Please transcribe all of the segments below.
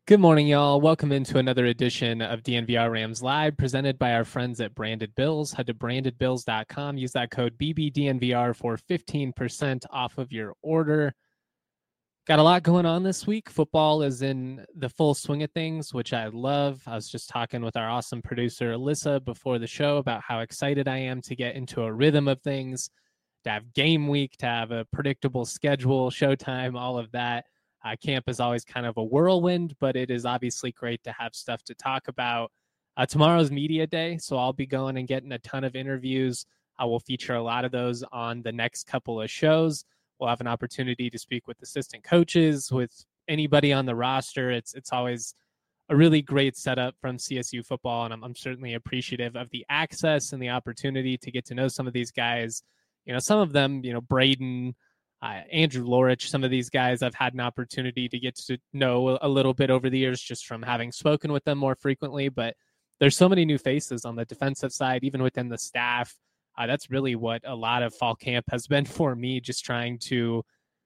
Good morning, y'all. Welcome into another edition of DNVR Rams Live, presented by our friends at Branded Bills. Head to brandedbills.com. Use that code BBDNVR for 15% off of your order. Got a lot going on this week. Football is in the full swing of things, which I love. I was just talking with our awesome producer, Alyssa, before the show about how excited I am to get into a rhythm of things, to have game week, to have a predictable schedule, showtime, all of that. Camp is always kind of a whirlwind, but it is obviously great to have stuff to talk about. Tomorrow's media day, so I'll be going and getting a ton of interviews. I will feature a lot of those on the next couple of shows. We'll have an opportunity to speak with assistant coaches, with anybody on the roster. It's always a really great setup from CSU football, and I'm certainly appreciative of the access and the opportunity to get to know some of these guys. Some of them, Braden, Andrew Lorich, some of these guys I've had an opportunity to get to know a little bit over the years just from having spoken with them more frequently. But there's so many new faces on the defensive side, even within the staff. That's really what a lot of fall camp has been for me, just trying to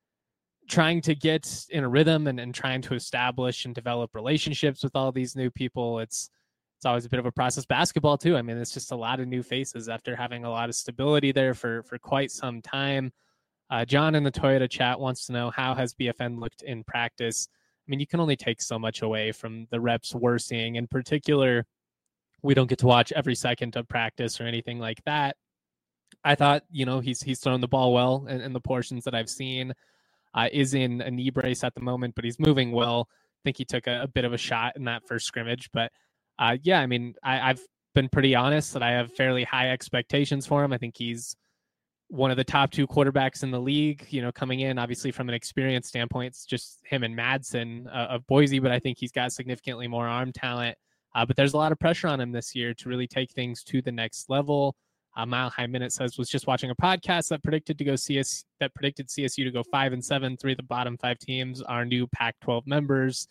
get in a rhythm and trying to establish and develop relationships with all these new people. It's always a bit of a process. Basketball too. I mean, it's just a lot of new faces after having a lot of stability there for quite some time. John in the Toyota chat wants to know, how has BFN looked in practice? I mean, you can only take so much away from the reps we're seeing. In particular, we don't get to watch every second of practice or anything like that. I thought, he's thrown the ball well in the portions that I've seen. Is in a knee brace at the moment, but he's moving well. I think he took a bit of a shot in that first scrimmage. But yeah, I mean, I've been pretty honest that I have fairly high expectations for him. I think he's one of the top two quarterbacks in the league, coming in. Obviously, from an experience standpoint, it's just him and Madsen of Boise, but I think he's got significantly more arm talent. But there's a lot of pressure on him this year to really take things to the next level. Mile High Minute says, was just watching a podcast that predicted CSU to go 5-7. Three of the bottom five teams are new Pac-12 members.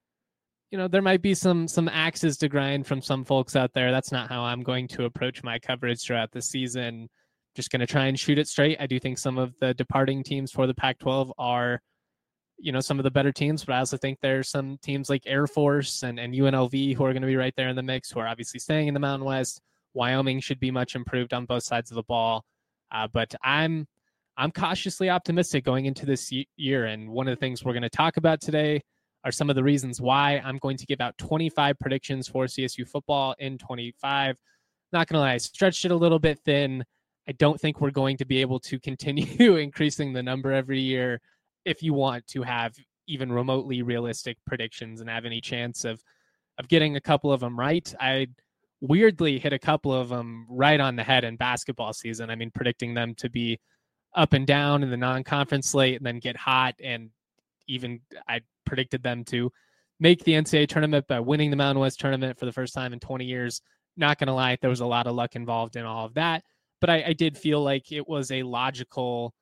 There might be some axes to grind from some folks out there. That's not how I'm going to approach my coverage throughout the season. Just going to try and shoot it straight. I do think some of the departing teams for the Pac-12 are, some of the better teams, but I also think there's some teams like Air Force and UNLV who are going to be right there in the mix, who are obviously staying in the Mountain West. Wyoming should be much improved on both sides of the ball. But I'm cautiously optimistic going into this year. And one of the things we're going to talk about today are some of the reasons why. I'm going to give out 25 predictions for CSU football in 25. Not going to lie, I stretched it a little bit thin. I don't think we're going to be able to continue increasing the number every year if you want to have even remotely realistic predictions and have any chance of getting a couple of them right. I weirdly hit a couple of them right on the head in basketball season. I mean, predicting them to be up and down in the non-conference slate and then get hot. And even I predicted them to make the NCAA tournament by winning the Mountain West tournament for the first time in 20 years. Not going to lie, there was a lot of luck involved in all of that. But I did feel like it was a logical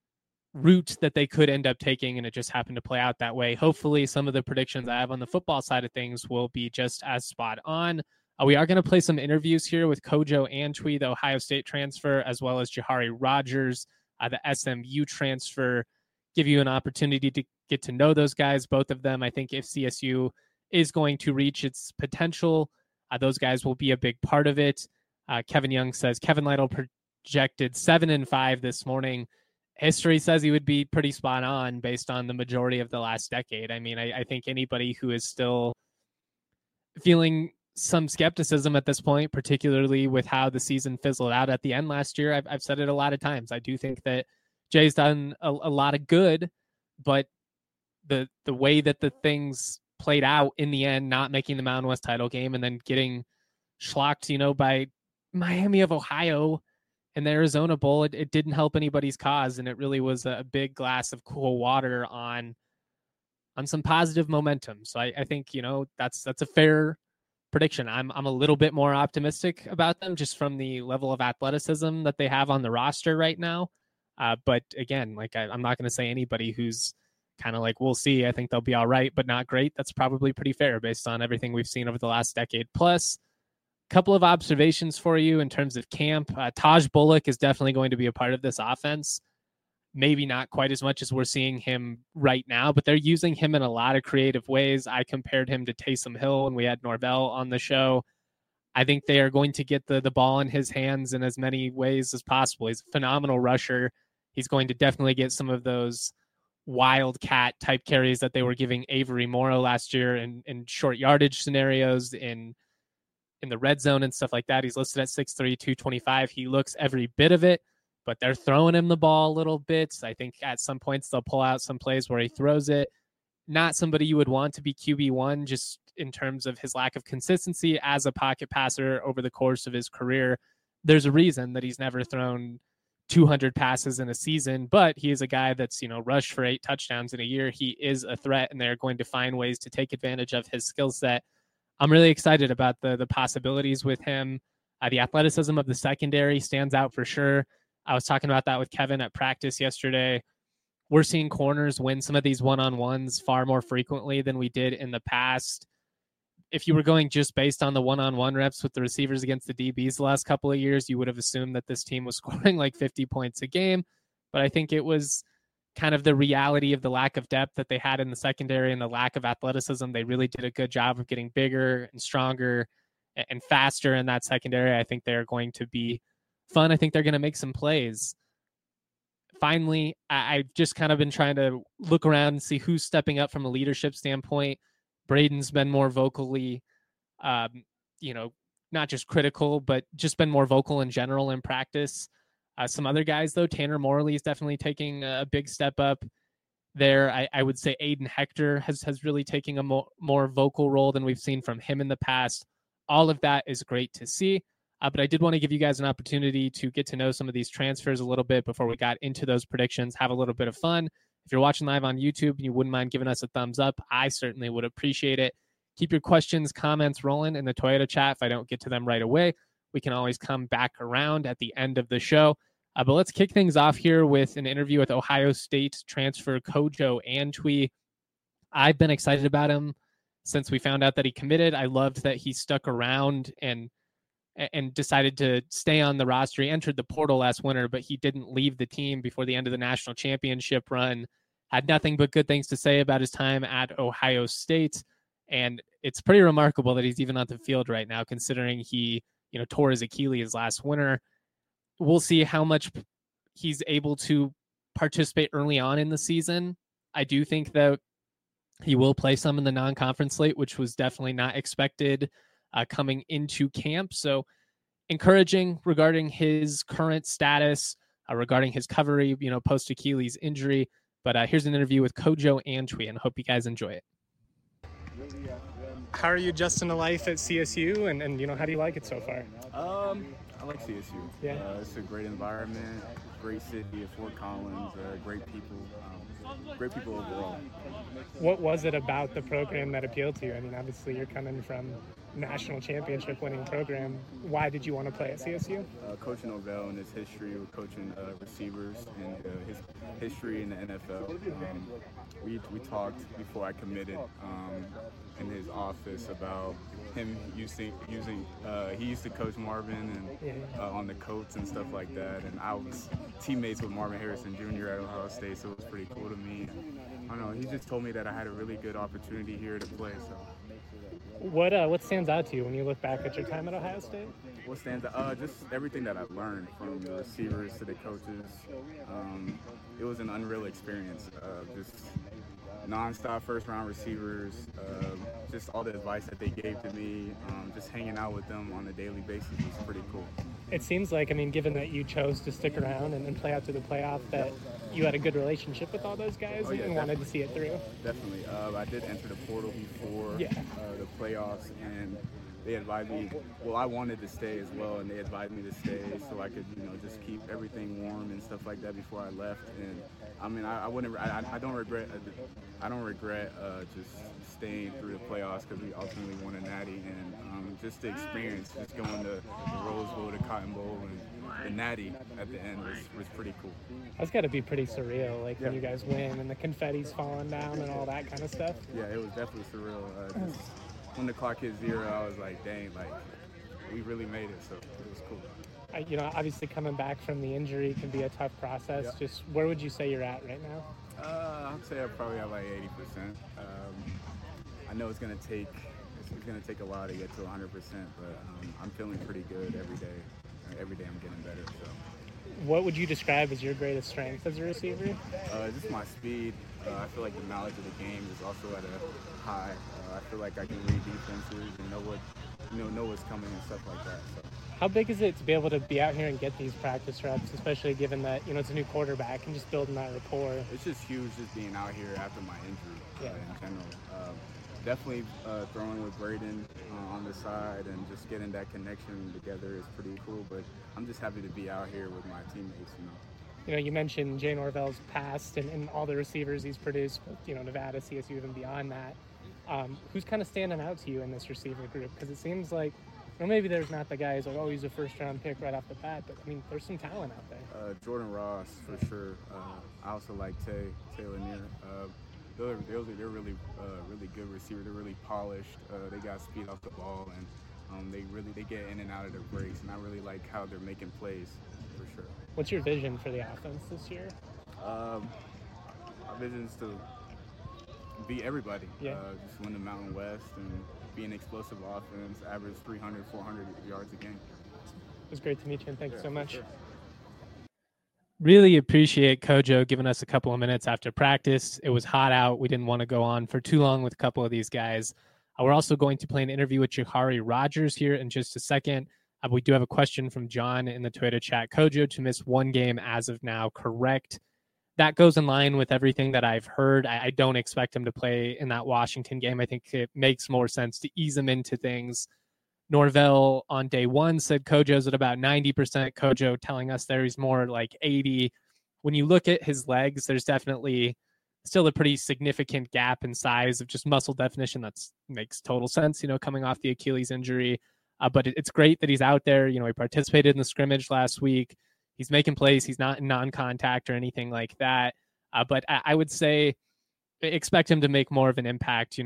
route that they could end up taking, and it just happened to play out that way. Hopefully, some of the predictions I have on the football side of things will be just as spot on. We are going to play some interviews here with Kojo Antwi, the Ohio State transfer, as well as Jahari Rogers, the SMU transfer. Give you an opportunity to get to know those guys, both of them. I think if CSU is going to reach its potential, those guys will be a big part of it. Kevin Young says Kevin Lytle projected 7-5 this morning. History says he would be pretty spot on based on the majority of the last decade. I mean, I think anybody who is still feeling some skepticism at this point, particularly with how the season fizzled out at the end last year, I've said it a lot of times. I do think that Jay's done a lot of good, but the way that the things played out in the end, not making the Mountain West title game and then getting schlocked, by Miami of Ohio and the Arizona Bowl, it didn't help anybody's cause. And it really was a big glass of cool water on some positive momentum. So I think, that's a fair prediction. I'm a little bit more optimistic about them just from the level of athleticism that they have on the roster right now. But again, I'm not going to say anybody who's kind of like, we'll see. I think they'll be all right, but not great. That's probably pretty fair based on everything we've seen over the last decade. Plus, couple of observations for you in terms of camp. Taj Bullock is definitely going to be a part of this offense. maybe not quite as much as we're seeing him right now, but they're using him in a lot of creative ways. I compared him to Taysom Hill when we had Norvell on the show. I think they are going to get the ball in his hands in as many ways as possible. He's a phenomenal rusher. He's going to definitely get some of those wildcat type carries that they were giving Avery Morrow last year in short yardage scenarios in the red zone and stuff like that. He's listed at 6'3", 225. He looks every bit of it, but they're throwing him the ball a little bit. I think at some points they'll pull out some plays where he throws it. Not somebody you would want to be QB1 just in terms of his lack of consistency as a pocket passer over the course of his career. There's a reason that he's never thrown 200 passes in a season, but he is a guy that's, rushed for 8 touchdowns in a year. He is a threat, and they're going to find ways to take advantage of his skill set. I'm really excited about the possibilities with him. The athleticism of the secondary stands out for sure. I was talking about that with Kevin at practice yesterday. We're seeing corners win some of these one-on-ones far more frequently than we did in the past. If you were going just based on the one-on-one reps with the receivers against the DBs the last couple of years, you would have assumed that this team was scoring like 50 points a game. But I think it was kind of the reality of the lack of depth that they had in the secondary and the lack of athleticism. They really did a good job of getting bigger and stronger and faster in that secondary. I think they're going to be fun. I think they're going to make some plays. Finally, I've just kind of been trying to look around and see who's stepping up from a leadership standpoint. Braden's been more vocally, not just critical, but just been more vocal in general in practice. Some other guys, though, Tanner Morley is definitely taking a big step up there. I would say Aiden Hector has really taken a more vocal role than we've seen from him in the past. All of that is great to see. But I did want to give you guys an opportunity to get to know some of these transfers a little bit before we got into those predictions, have a little bit of fun. If you're watching live on YouTube and you wouldn't mind giving us a thumbs up, I certainly would appreciate it. Keep your questions, comments rolling in the Toyota chat. If I don't get to them right away, we can always come back around at the end of the show. But let's kick things off here with an interview with Ohio State transfer Kojo Antwi. I've been excited about him since we found out that he committed. I loved that he stuck around and decided to stay on the roster. He entered the portal last winter, but he didn't leave the team before the end of the national championship run. Had nothing but good things to say about his time at Ohio State. And it's pretty remarkable that he's even on the field right now, considering he, tore his Achilles last winter. We'll see how much he's able to participate early on in the season. I do think that he will play some in the non-conference slate, which was definitely not expected coming into camp. So encouraging regarding his current status, regarding his recovery, post Achilles injury. But here's an interview with Kojo Antwi, and I hope you guys enjoy it. How are you adjusting to life at CSU, and how do you like it so far? I like CSU. Yeah. It's a great environment, great city of Fort Collins, great people overall. What was it about the program that appealed to you? I mean, obviously you're coming from national championship winning program. Why did you want to play at CSU? Coach Norvell and his history with coaching receivers and his history in the NFL. We talked before I committed in his office about him using he used to coach Marvin and on the Colts and stuff like that, and I was teammates with Marvin Harrison Jr. at Ohio State, so it was pretty cool to me. I don't know, he just told me that I had a really good opportunity here to play. So what stands out to you when you look back at your time at Ohio State? What stands out? Just everything that I've learned, from the receivers to the coaches. It was an unreal experience. Just non-stop first-round receivers, just all the advice that they gave to me, just hanging out with them on a daily basis was pretty cool. It seems like, given that you chose to stick around and play out through the playoff, that you had a good relationship with all those guys and wanted to see it through. Definitely. I did enter the portal before the playoffs, and they advised me, I wanted to stay as well, and they advised me to stay so I could, just keep everything warm and stuff like that before I left. And I don't regret just staying through the playoffs, because we ultimately won a natty, and just the experience, just going to the Rose Bowl, the Cotton Bowl, and the natty at the end was pretty cool. That's got to be pretty surreal, when you guys win and the confetti's falling down and all that kind of stuff. Yeah, it was definitely surreal. Just when the clock hit 0, I was like, dang, we really made it, so it was cool. Obviously coming back from the injury can be a tough process. Yep. Just where would you say you're at right now? I'd say I probably have like 80%. I know it's gonna take a while to get to 100%, but I'm feeling pretty good every day. Every day I'm getting better. So. What would you describe as your greatest strength as a receiver? Just my speed. I feel like the knowledge of the game is also at a high. I feel like I can read defenses and know what's coming and stuff like that. So. How big is it to be able to be out here and get these practice reps, especially given that it's a new quarterback and just building that rapport? It's just huge, just being out here after my injury in general. Definitely throwing with Braden on the side and just getting that connection together is pretty cool. But I'm just happy to be out here with my teammates. You mentioned Jay Norvell's past and all the receivers he's produced, Nevada, CSU, even beyond that. Who's kind of standing out to you in this receiver group? Because it seems like, maybe there's not the guys like, he's a first-round pick right off the bat, but there's some talent out there. Jordan Ross for sure. I also like Tay Lanier. They're really good receivers. They're really polished. They got speed off the ball, and they get in and out of their breaks. And I really like how they're making plays for sure. What's your vision for the offense this year? Our vision is to beat everybody. Just win the Mountain West and be an explosive offense. Average 300, 400 yards a game. It was great to meet you, and thanks so much. Sure. Really appreciate Kojo giving us a couple of minutes after practice. It was hot out. We didn't want to go on for too long with a couple of these guys. We're also going to play an interview with Jahari Rogers here in just a second. We do have a question from John in the Twitter chat. Kojo to miss one game as of now, correct? That goes in line with everything that I've heard. I don't expect him to play in that Washington game. I think it makes more sense to ease him into things. Norvell on day one said Kojo's at about 90%. Kojo telling us there he's more like 80. When you look at his legs, there's definitely still a pretty significant gap in size of just muscle definition. That makes total sense, coming off the Achilles injury. But it's great that he's out there. He participated in the scrimmage last week. He's making plays. He's not in non-contact or anything like that. But I would say expect him to make more of an impact,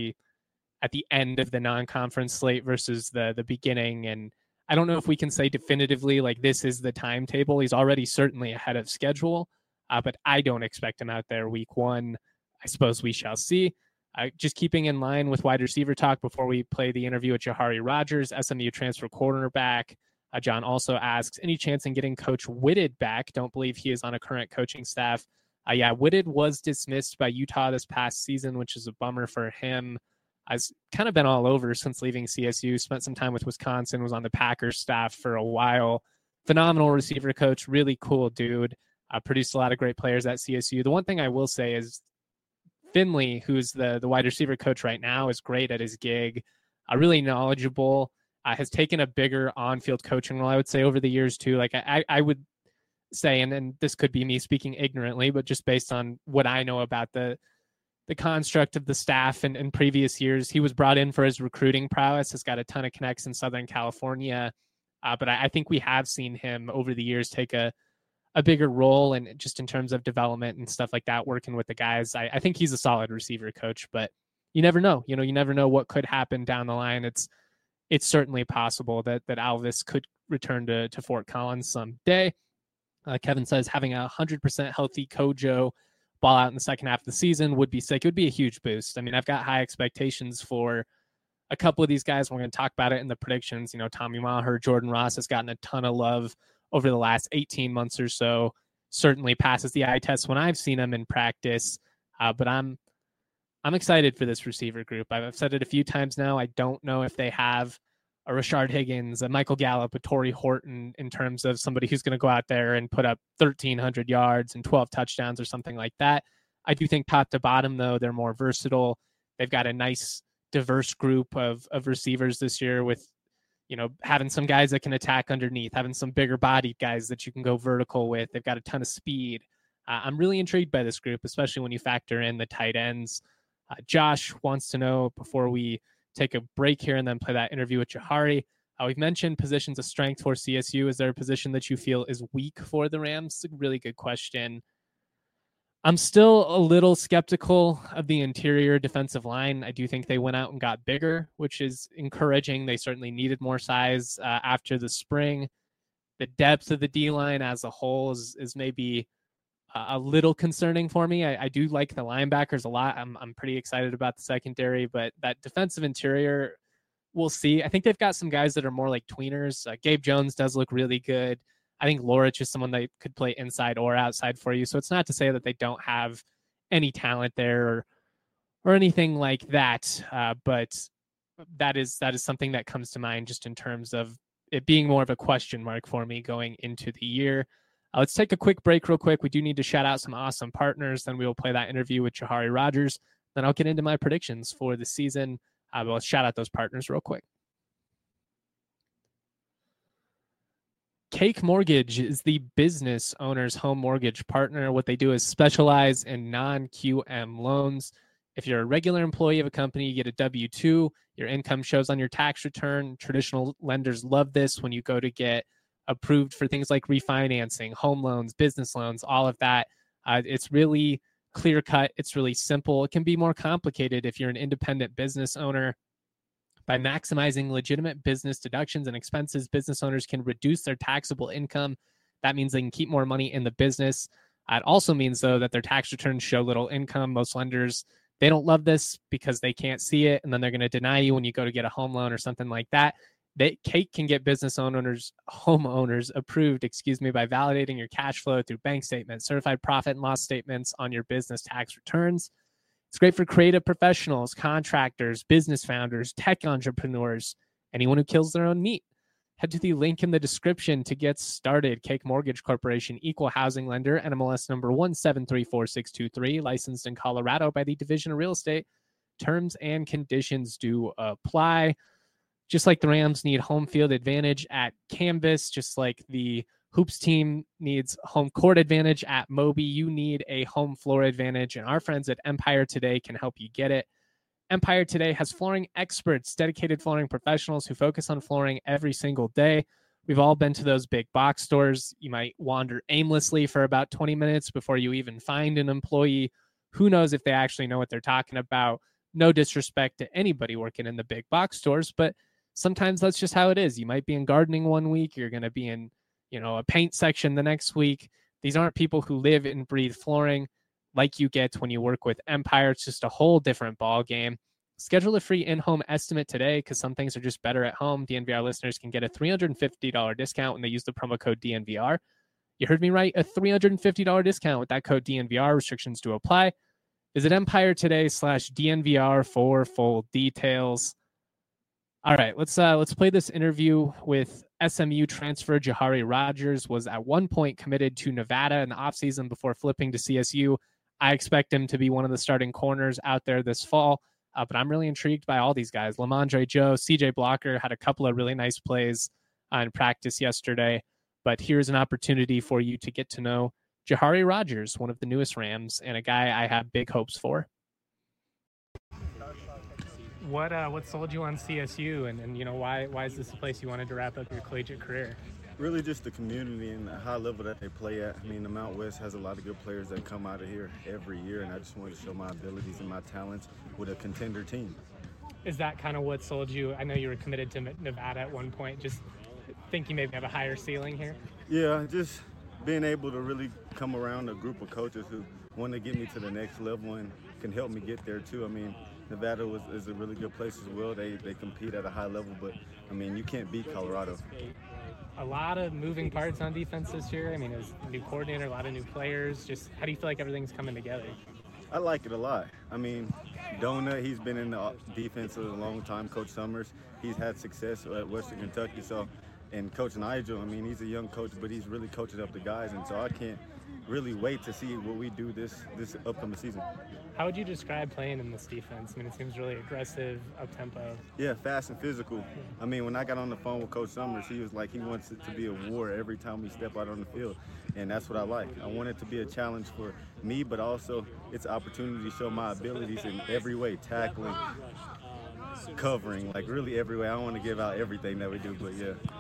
at the end of the non-conference slate versus the beginning. And I don't know if we can say definitively, like, this is the timetable. He's already certainly ahead of schedule, but I don't expect him out there week one. I suppose we shall see. Just keeping in line with wide receiver talk before we play the interview with Jahari Rogers, SMU transfer cornerback. John also asks, any chance in getting Coach Whitted back? Don't believe he is on a current coaching staff. Whitted was dismissed by Utah this past season, which is a bummer for him. I've kind of been all over since leaving CSU, spent some time with Wisconsin, was on the Packers staff for a while. Phenomenal receiver coach, really cool dude. Produced a lot of great players at CSU. The one thing I will say is Finley, who's the wide receiver coach right now, is great at his gig, really knowledgeable, has taken a bigger on-field coaching role, I would say, over the years too. Like I would say, and this could be me speaking ignorantly, but just based on what I know about the construct of the staff in previous years, he was brought in for his recruiting prowess, has got a ton of connects in Southern California. But I think we have seen him over the years take a bigger role, and just in terms of development and stuff like that, working with the guys. I think he's a solid receiver coach, but you never know. You never know what could happen down the line. It's certainly possible that Alvis could return to Fort Collins someday. Kevin says having 100% healthy Kojo ball out in the second half of the season would be sick. It would be a huge boost. I mean, I've got high expectations for a couple of these guys. We're going to talk about it in the predictions. Tommy Maher, Jordan Ross has gotten a ton of love over the last 18 months or so. Certainly passes the eye test when I've seen him in practice. But I'm excited for this receiver group. I've said it a few times now. I don't know if they have a Rashard Higgins, a Michael Gallup, a Torrey Horton in terms of somebody who's going to go out there and put up 1,300 yards and 12 touchdowns or something like that. I do think top to bottom, though, they're more versatile. They've got a nice, diverse group of receivers this year with, having some guys that can attack underneath, having some bigger bodied guys that you can go vertical with. They've got a ton of speed. I'm really intrigued by this group, especially when you factor in the tight ends. Josh wants to know, before we take a break here and then play that interview with Jahari, we've mentioned positions of strength for CSU. Is there a position that you feel is weak for the Rams? It's a really good question. I'm still a little skeptical of the interior defensive line. I do think they went out and got bigger, which is encouraging. They certainly needed more size after the spring. The depth of the D-line as a whole is maybe a little concerning for me. I do like the linebackers a lot. I'm pretty excited about the secondary, but that defensive interior, we'll see. I think they've got some guys that are more like tweeners. Gabe Jones does look really good. I think Lorich is someone that could play inside or outside for you. So it's not to say that they don't have any talent there or anything like that. But that is something that comes to mind just in terms of it being more of a question mark for me going into the year. Let's take a quick break real quick. We do need to shout out some awesome partners. Then we will play that interview with Jahari Rogers. Then I'll get into my predictions for the season. But let's shout out those partners real quick. Cake Mortgage is the business owner's home mortgage partner. What they do is specialize in non-QM loans. If you're a regular employee of a company, you get a W-2, your income shows on your tax return. Traditional lenders love this when you go to get approved for things like refinancing, home loans, business loans, all of that. It's really clear cut. It's really simple. It can be more complicated if you're an independent business owner. By maximizing legitimate business deductions and expenses, business owners can reduce their taxable income. That means they can keep more money in the business. It also means, though, that their tax returns show little income. Most lenders, they don't love this because they can't see it, and then they're going to deny you when you go to get a home loan or something like that. Cake can get business owners, homeowners approved, by validating your cash flow through bank statements, certified profit and loss statements on your business tax returns. It's great for creative professionals, contractors, business founders, tech entrepreneurs, anyone who kills their own meat. Head to the link in the description to get started. Cake Mortgage Corporation, equal housing lender, NMLS number 1734623, licensed in Colorado by the Division of Real Estate. Terms and conditions do apply. Just like the Rams need home field advantage at Canvas, just like the Hoops team needs home court advantage at Moby, you need a home floor advantage, and our friends at Empire Today can help you get it. Empire Today has flooring experts, dedicated flooring professionals who focus on flooring every single day. We've all been to those big box stores. You might wander aimlessly for about 20 minutes before you even find an employee. Who knows if they actually know what they're talking about? No disrespect to anybody working in the big box stores, but sometimes that's just how it is. You might be in gardening one week, you're going to be in a paint section the next week. These aren't people who live and breathe flooring like you get when you work with Empire. It's just a whole different ball game. Schedule a free in-home estimate today because some things are just better at home. DNVR listeners can get a $350 discount when they use the promo code DNVR. You heard me right, a $350 discount with that code DNVR. Restrictions do apply. Visit Empire Today/DNVR for full details. All right, let's play this interview with SMU transfer Jahari Rogers. Was at one point committed to Nevada in the offseason before flipping to CSU. I expect him to be one of the starting corners out there this fall, but I'm really intrigued by all these guys. Lamondre Joe, CJ Blocker had a couple of really nice plays in practice yesterday, but here's an opportunity for you to get to know Jahari Rogers, one of the newest Rams, and a guy I have big hopes for. What sold you on CSU, and why is this a place you wanted to wrap up your collegiate career? Really just the community and the high level that they play at. I mean, the Mount West has a lot of good players that come out of here every year, and I just wanted to show my abilities and my talents with a contender team. Is that kind of what sold you? I know you were committed to Nevada at one point. Just think you maybe have a higher ceiling here? Yeah, just being able to really come around a group of coaches who want to get me to the next level and can help me get there too. I mean, Nevada is a really good place as well. They compete at a high level, but I mean, you can't beat Colorado. A lot of moving parts on defense this year. I mean, as a new coordinator, a lot of new players. Just how do you feel like everything's coming together? I like it a lot. I mean, Donut, he's been in the defense a long time. Coach Summers, he's had success at Western Kentucky. So, and Coach Nigel, I mean, he's a young coach, but he's really coaching up the guys. And so I can't really wait to see what we do this upcoming season. How would you describe playing in this defense? I mean, it seems really aggressive, up-tempo. Yeah, fast and physical. I mean, when I got on the phone with Coach Summers, he was like, he wants it to be a war every time we step out on the field. And that's what I like. I want it to be a challenge for me, but also it's an opportunity to show my abilities in every way, tackling, covering, like really every way. I don't want to give out everything that we do, but yeah.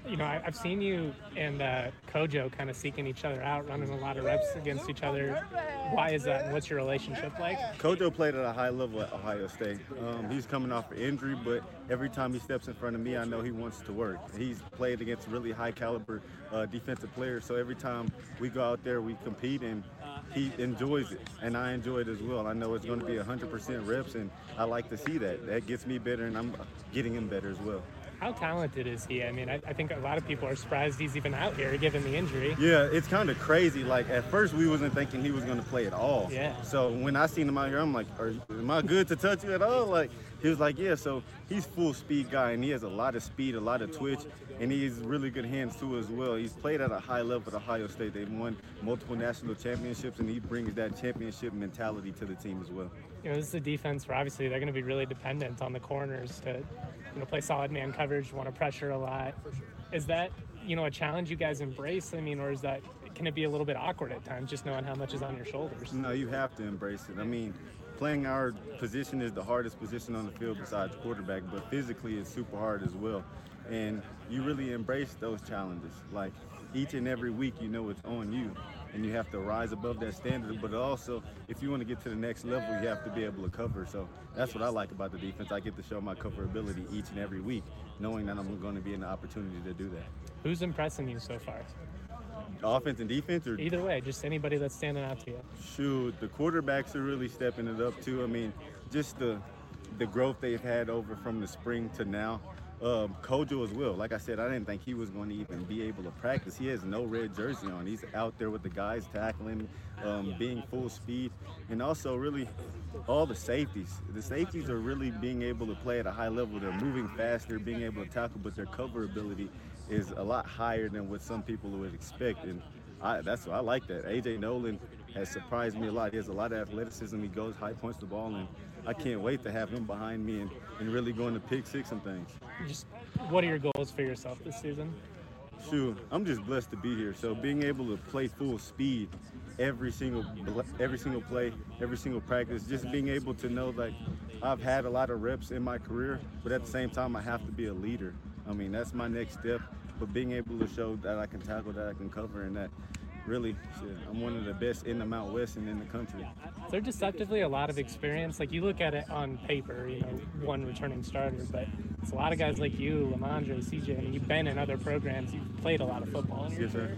I've seen you and Kojo kind of seeking each other out, running a lot of reps against each other. Why is that, and what's your relationship like? Kojo played at a high level at Ohio State. He's coming off an injury, but every time he steps in front of me, I know he wants to work. He's played against really high caliber defensive players, so every time we go out there, we compete, and he enjoys it, and I enjoy it as well. I know it's going to be 100% reps, and I like to see that. That gets me better, and I'm getting him better as well. How talented is he? I mean, I think a lot of people are surprised he's even out here given the injury. Yeah, it's kind of crazy. Like, at first, we wasn't thinking he was going to play at all. Yeah. So when I seen him out here, I'm like, am I good to touch you at all? Like, he was like, yeah. So he's full speed guy, and he has a lot of speed, a lot of twitch, and he has really good hands too as well. He's played at a high level at Ohio State. They've won multiple national championships, and he brings that championship mentality to the team as well. This is a defense where obviously they're going to be really dependent on the corners to play solid man coverage, want to pressure a lot. Is that, a challenge you guys embrace? I mean, or can it be a little bit awkward at times, just knowing how much is on your shoulders? No, you have to embrace it. I mean, playing our position is the hardest position on the field besides quarterback, but physically it's super hard as well. And you really embrace those challenges. Like, each and every week, it's on you, and you have to rise above that standard. But also, if you want to get to the next level, you have to be able to cover. So that's what I like about the defense. I get to show my coverability each and every week, knowing that I'm going to be in the opportunity to do that. Who's impressing you so far? Offense and defense? Or either way, just anybody that's standing out to you. Shoot, the quarterbacks are really stepping it up too. I mean, just the growth they've had over from the spring to now. Kojo as well. Like I said, I didn't think he was going to even be able to practice. He has no red jersey on. He's out there with the guys tackling, being full speed, and also really all the safeties. The safeties are really being able to play at a high level. They're moving faster, being able to tackle, but their coverability is a lot higher than what some people would expect. And that's why I like that. A.J. Nolan has surprised me a lot. He has a lot of athleticism. He goes high, points the ball, and I can't wait to have him behind me and really going to pick six and things. Just what are your goals for yourself this season? Shoot, I'm just blessed to be here. So being able to play full speed every single play, every single practice, just being able to know that I've had a lot of reps in my career, but at the same time I have to be a leader. I mean, that's my next step, but being able to show that I can tackle, that I can cover, and that really, I'm one of the best in the Mount West and in the country. They're deceptively a lot of experience. Like, you look at it on paper, one returning starter, but it's a lot of guys like you, Lamondre, CJ. I mean, you've been in other programs. You've played a lot of football. Yes, sir.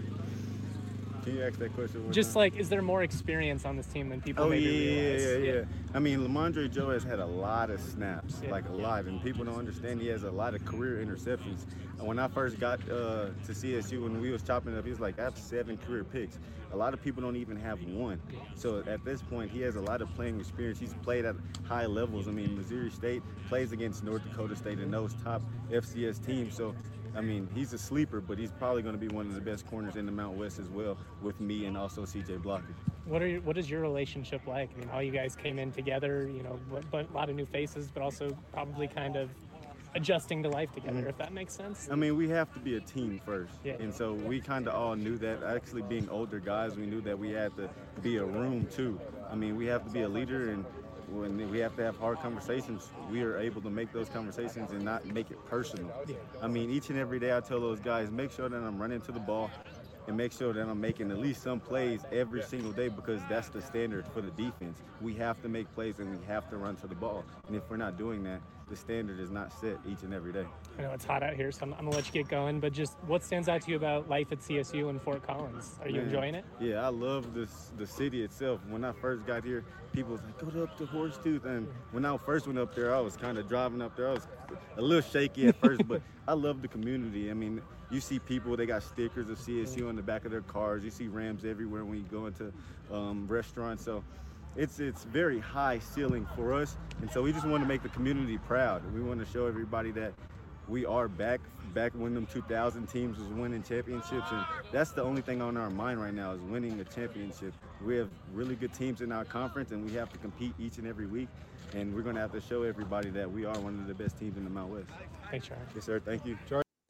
Can you ask that question? Just like, is there more experience on this team than people maybe realize? Yeah. I mean, Lamondre Joe has had a lot of snaps, a lot, and people don't understand he has a lot of career interceptions. And when I first got to CSU, when we was chopping up, he was like, I have 7 career picks. A lot of people don't even have 1. So at this point, he has a lot of playing experience. He's played at high levels. I mean, Missouri State plays against North Dakota State and those top FCS teams. So I mean, he's a sleeper, but he's probably going to be one of the best corners in the Mount West as well, with me and also CJ Blocker. What is your relationship like? I mean, all you guys came in together, but a lot of new faces, but also probably kind of adjusting to life together, if that makes sense. I mean, we have to be a team first. Yeah. And so we kind of all knew that. Actually, being older guys, we knew that we had to be a room too. I mean, we have to be a leader, and when we have to have hard conversations, we are able to make those conversations and not make it personal. Yeah. I mean, each and every day I tell those guys, make sure that I'm running to the ball and make sure that I'm making at least some plays every single day, because that's the standard for the defense. We have to make plays and we have to run to the ball. And if we're not doing that, the standard is not set each and every day. I know it's hot out here, so I'm going to let you get going, but just what stands out to you about life at CSU and Fort Collins? Are you enjoying it? Yeah, I love the city itself. When I first got here, people was like, go up to Horsetooth. And when I first went up there, I was kind of driving up there. I was a little shaky at first, but I love the community. I mean, you see people, they got stickers of CSU on the back of their cars. You see Rams everywhere when you go into restaurants. So it's very high ceiling for us. And so we just want to make the community proud. We want to show everybody that we are back when them 2000 teams was winning championships. And that's the only thing on our mind right now, is winning a championship. We have really good teams in our conference, and we have to compete each and every week. And we're going to have to show everybody that we are one of the best teams in the Mount West. Thanks, Charlie. Yes, sir. Thank you.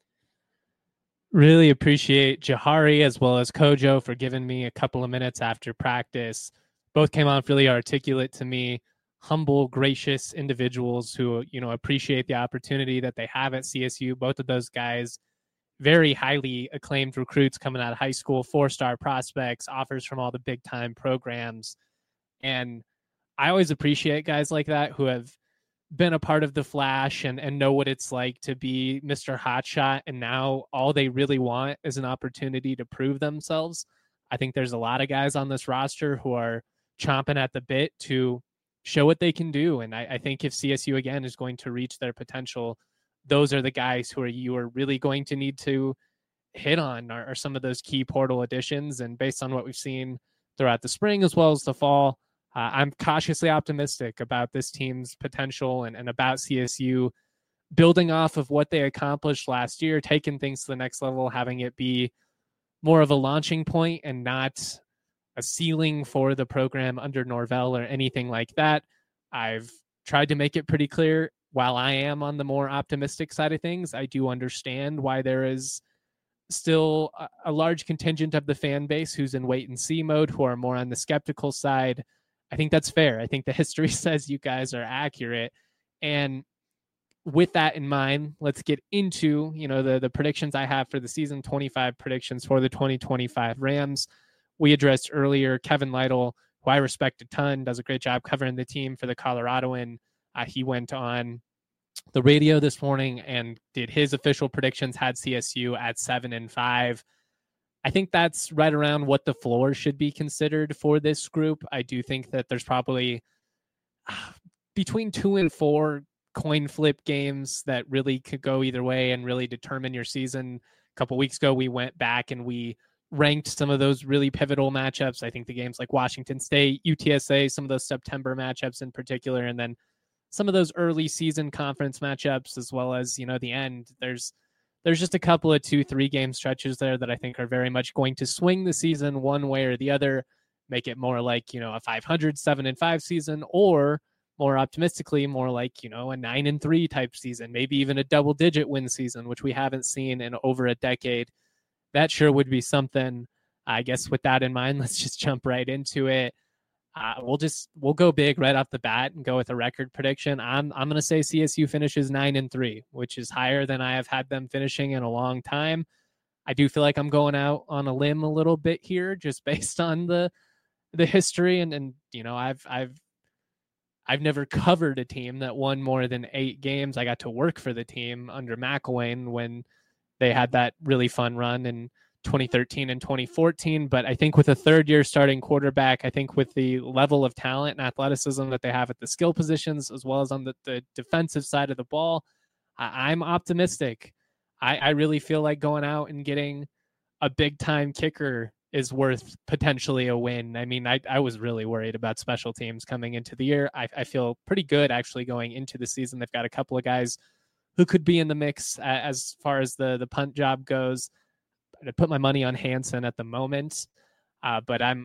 Really appreciate Jahari as well as Kojo for giving me a couple of minutes after practice. Both came off really articulate to me, humble, gracious individuals who, appreciate the opportunity that they have at CSU. Both of those guys very highly acclaimed recruits coming out of high school, 4-star prospects, offers from all the big time programs. And I always appreciate guys like that who have been a part of the Flash and know what it's like to be Mr. Hotshot. And now all they really want is an opportunity to prove themselves. I think there's a lot of guys on this roster who are chomping at the bit to show what they can do. And I think if CSU again is going to reach their potential, those are the guys who you are really going to need to hit on are some of those key portal additions. And based on what we've seen throughout the spring as well as the fall, I'm cautiously optimistic about this team's potential and about CSU building off of what they accomplished last year, taking things to the next level, having it be more of a launching point and not a ceiling for the program under Norvell or anything like that. I've tried to make it pretty clear. While I am on the more optimistic side of things, I do understand why there is still a large contingent of the fan base who's in wait and see mode, who are more on the skeptical side. I think that's fair. I think the history says you guys are accurate. And with that in mind, let's get into, the predictions I have for the season, 25 predictions for the 2025 Rams. We addressed earlier Kevin Lytle, who I respect a ton, does a great job covering the team for the Coloradoan. He went on the radio this morning and did his official predictions, had CSU at 7-5. I think that's right around what the floor should be considered for this group. I do think that there's probably between 2 and 4 coin flip games that really could go either way and really determine your season. A couple weeks ago, we went back and we ranked some of those really pivotal matchups. I think the games like Washington State, UTSA, some of those September matchups in particular, and then some of those early season conference matchups, as well as, the end. There's just a couple of 2-3 game stretches there that I think are very much going to swing the season one way or the other, make it more like, a 500, 7-5 season, or more optimistically, more like, a 9-3 type season, maybe even a double digit win season, which we haven't seen in over a decade. That sure would be something. I guess with that in mind, let's just jump right into it. We'll go big right off the bat and go with a record prediction. I'm going to say CSU finishes 9-3, which is higher than I have had them finishing in a long time. I do feel like I'm going out on a limb a little bit here, just based on the history and I've never covered a team that won more than 8 games. I got to work for the team under McElwain when they had that really fun run in 2013 and 2014. But I think with a third-year starting quarterback, I think with the level of talent and athleticism that they have at the skill positions, as well as on the defensive side of the ball, I'm optimistic. I really feel like going out and getting a big-time kicker is worth potentially a win. I mean, I was really worried about special teams coming into the year. I feel pretty good actually going into the season. They've got a couple of guys who could be in the mix as far as the punt job goes. I put my money on Hansen at the moment, but I'm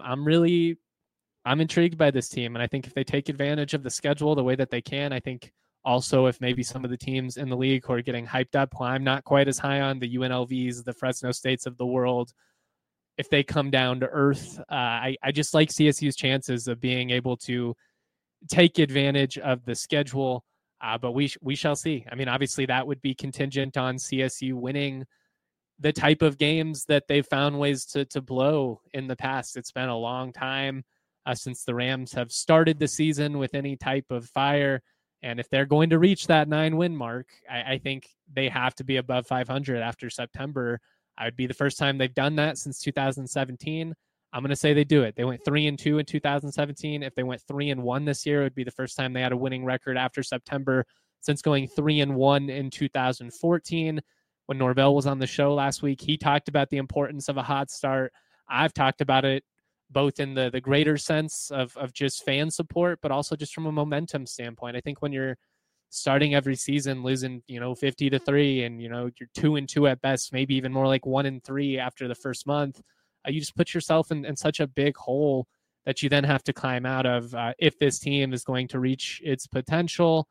intrigued by this team, and I think if they take advantage of the schedule the way that they can, I think also if maybe some of the teams in the league who are getting hyped up, who I'm not quite as high on, the UNLVs, the Fresno States of the world, if they come down to earth, I just like CSU's chances of being able to take advantage of the schedule, but we shall see. I mean, obviously that would be contingent on CSU winning the type of games that they've found ways to blow in the past. It's been a long time since the Rams have started the season with any type of fire. And if they're going to reach that 9-win mark, I think they have to be above 500 after September. It would be the first time they've done that since 2017. I'm going to say they do it. They went 3-2 in 2017. If they went 3-1 this year, it would be the first time they had a winning record after September since going 3-1 in 2014. When Norvell was on the show last week, he talked about the importance of a hot start. I've talked about it both in the greater sense of just fan support, but also just from a momentum standpoint. I think when you're starting every season losing, 50-3 and, you're 2-2 at best, maybe even more like 1-3 after the first month, you just put yourself in such a big hole that you then have to climb out of if this team is going to reach its potential.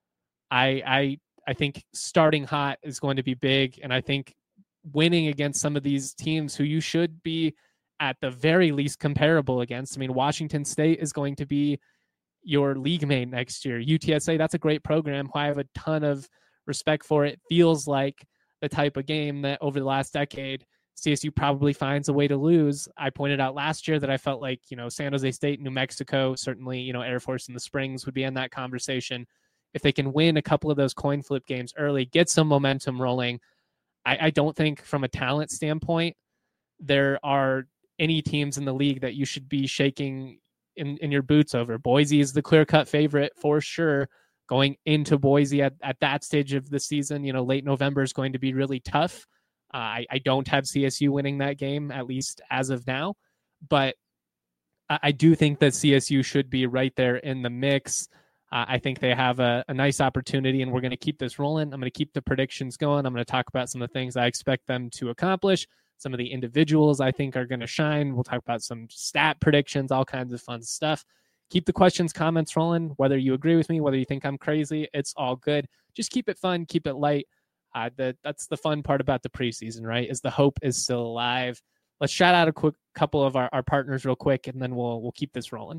I think starting hot is going to be big, and I think winning against some of these teams who you should be at the very least comparable against. I mean, Washington State is going to be your league mate next year. UTSA, that's a great program who I have a ton of respect for. It feels like the type of game that over the last decade, CSU probably finds a way to lose. I pointed out last year that I felt like, San Jose State, New Mexico, certainly, Air Force in the Springs would be in that conversation. If they can win a couple of those coin flip games early, get some momentum rolling, I don't think from a talent standpoint, there are any teams in the league that you should be shaking in your boots over. Boise is the clear-cut favorite for sure. Going into Boise at that stage of the season, late November is going to be really tough. I don't have CSU winning that game, at least as of now, but I do think that CSU should be right there in the mix. I think they have a nice opportunity, and we're going to keep this rolling. I'm going to keep the predictions going. I'm going to talk about some of the things I expect them to accomplish. Some of the individuals I think are going to shine. We'll talk about some stat predictions, all kinds of fun stuff. Keep the questions, comments rolling. Whether you agree with me, whether you think I'm crazy, it's all good. Just keep it fun, keep it light. That's the fun part about the preseason, right? Is the hope is still alive. Let's shout out a quick couple of our partners real quick, and then we'll keep this rolling.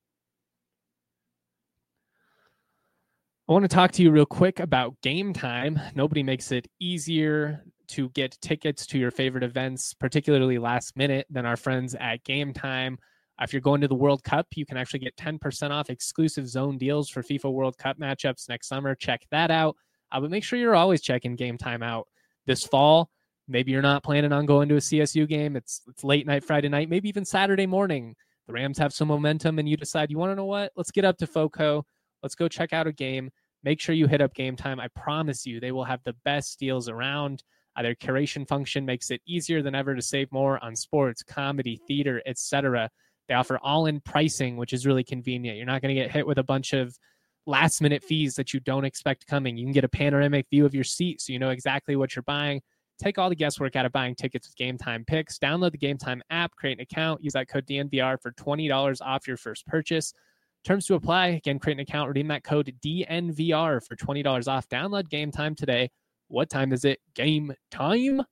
I want to talk to you real quick about Game Time. Nobody makes it easier to get tickets to your favorite events, particularly last minute, than our friends at Game Time. If you're going to the World Cup, you can actually get 10% off exclusive zone deals for FIFA World Cup matchups next summer. Check that out. But make sure you're always checking Game Time out. This fall, maybe you're not planning on going to a CSU game. It's late night Friday night, maybe even Saturday morning. The Rams have some momentum, and you decide, you want to know what? Let's get up to FOCO. Let's go check out a game. Make sure you hit up Game Time. I promise you, they will have the best deals around. Their curation function makes it easier than ever to save more on sports, comedy, theater, etc. They offer all-in pricing, which is really convenient. You're not going to get hit with a bunch of last-minute fees that you don't expect coming. You can get a panoramic view of your seat so you know exactly what you're buying. Take all the guesswork out of buying tickets with Game Time Picks. Download the Game Time app, create an account, use that code DNVR for $20 off your first purchase. Terms to apply. Again, create an account, redeem that code DNVR for $20 off. Download Game Time today. What time is it? Game time.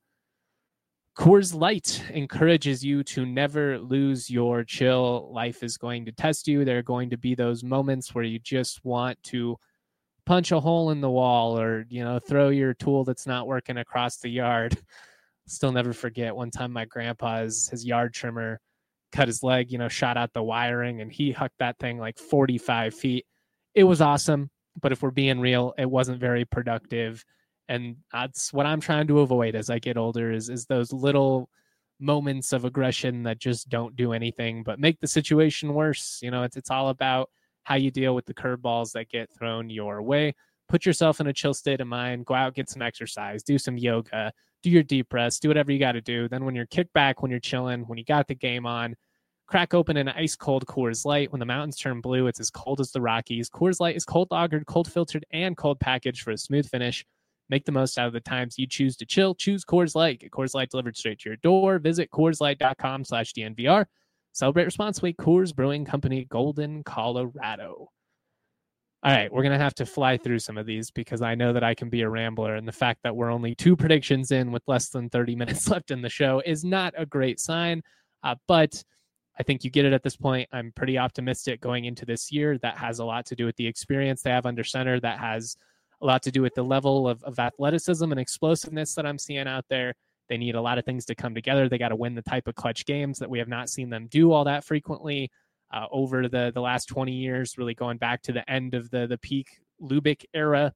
Coors Light encourages you to never lose your chill. Life is going to test you. There are going to be those moments where you just want to punch a hole in the wall or, throw your tool that's not working across the yard. Still never forget one time my grandpa's, his yard trimmer cut his leg, shot out the wiring, and he hucked that thing like 45 feet. It was awesome, but if we're being real, it wasn't very productive. And that's what I'm trying to avoid as I get older is those little moments of aggression that just don't do anything but make the situation worse. It's all about how you deal with the curveballs that get thrown your way. Put yourself in a chill state of mind. Go out, get some exercise, do some yoga, do your deep breaths, do whatever you got to do. Then when you're kicked back, when you're chilling, when you got the game on, crack open an ice cold Coors Light. When the mountains turn blue, it's as cold as the Rockies. Coors Light is cold lagered, cold filtered, and cold packaged for a smooth finish. Make the most out of the times you choose to chill. Choose Coors Light. Get Coors Light delivered straight to your door. Visit CoorsLight.com/DNVR. Celebrate responsibly. Coors Brewing Company, Golden, Colorado. All right, we're going to have to fly through some of these because I know that I can be a rambler, and the fact that we're only 2 predictions in with less than 30 minutes left in the show is not a great sign, but I think you get it at this point. I'm pretty optimistic going into this year. That has a lot to do with the experience they have under center. That has a lot to do with the level of athleticism and explosiveness that I'm seeing out there. They need a lot of things to come together. They got to win the type of clutch games that we have not seen them do all that frequently over the last 20 years, really going back to the end of the peak Lubick era.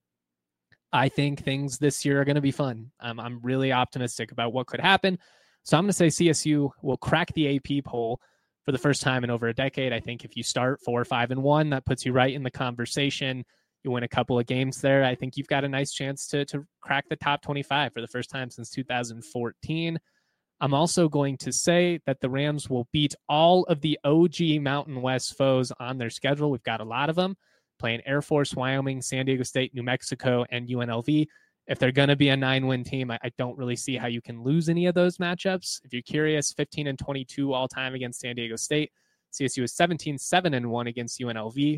I think things this year are going to be fun. I'm really optimistic about what could happen. So I'm going to say CSU will crack the AP poll for the first time in over a decade. I think if you start 4-5-1, that puts you right in the conversation. You win a couple of games there, I think you've got a nice chance to crack the top 25 for the first time since 2014. I'm also going to say that the Rams will beat all of the OG Mountain West foes on their schedule. We've got a lot of them playing Air Force, Wyoming, San Diego State, New Mexico, and UNLV. If they're going to be a 9-win team, I don't really see how you can lose any of those matchups. If you're curious, 15-22 all time against San Diego State. CSU is 17-7-1 against UNLV,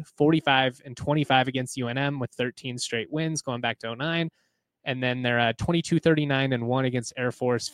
45-25 against UNM with 13 straight wins going back to 2009. And then they're 22-39-1 against Air Force,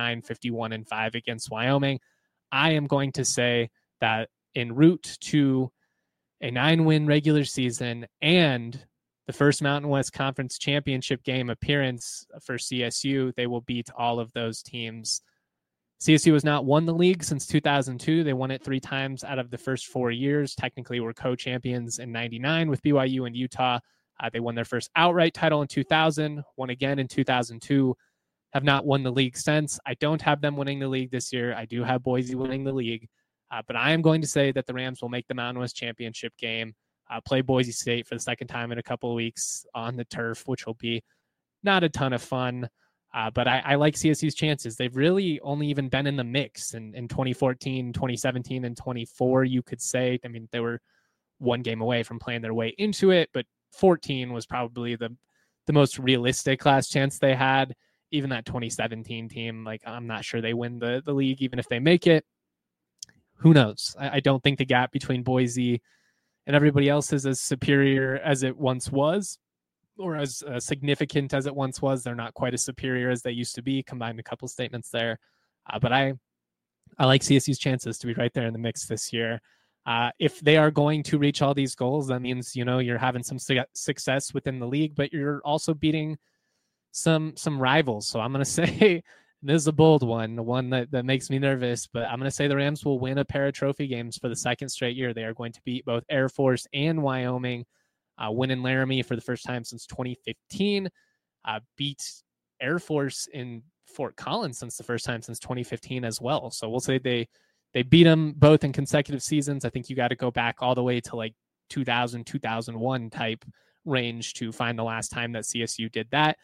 59-51-5 against Wyoming. I am going to say that en route to a 9-win regular season and the first Mountain West Conference Championship game appearance for CSU. They will beat all of those teams. CSU has not won the league since 2002. They won it 3 times out of the first 4 years. Technically, were co-champions in 99 with BYU and Utah. They won their first outright title in 2000, won again in 2002, have not won the league since. I don't have them winning the league this year. I do have Boise winning the league. But I am going to say that the Rams will make the Mountain West Championship game, play Boise State for the second time in a couple of weeks on the turf, which will be not a ton of fun. But I like CSU's chances. They've really only even been in the mix in 2014, 2017, and 24, you could say. I mean, they were one game away from playing their way into it, but 14 was probably the most realistic last chance they had. Even that 2017 team, like, I'm not sure they win the league, even if they make it. Who knows? I don't think the gap between Boise and everybody else is as superior as it once was, or as significant as it once was. They're not quite as superior as they used to be. Combined a couple statements there. But I like CSU's chances to be right there in the mix this year. If they are going to reach all these goals, that means, you're having some success within the league, but you're also beating some rivals. So I'm going to say, this is a bold one, the one that makes me nervous, but I'm going to say the Rams will win a pair of trophy games for the second straight year. They are going to beat both Air Force and Wyoming, win in Laramie for the first time since 2015, beat Air Force in Fort Collins since the first time since 2015 as well. So we'll say they beat them both in consecutive seasons. I think you got to go back all the way to like 2000, 2001 type range to find the last time that CSU did that.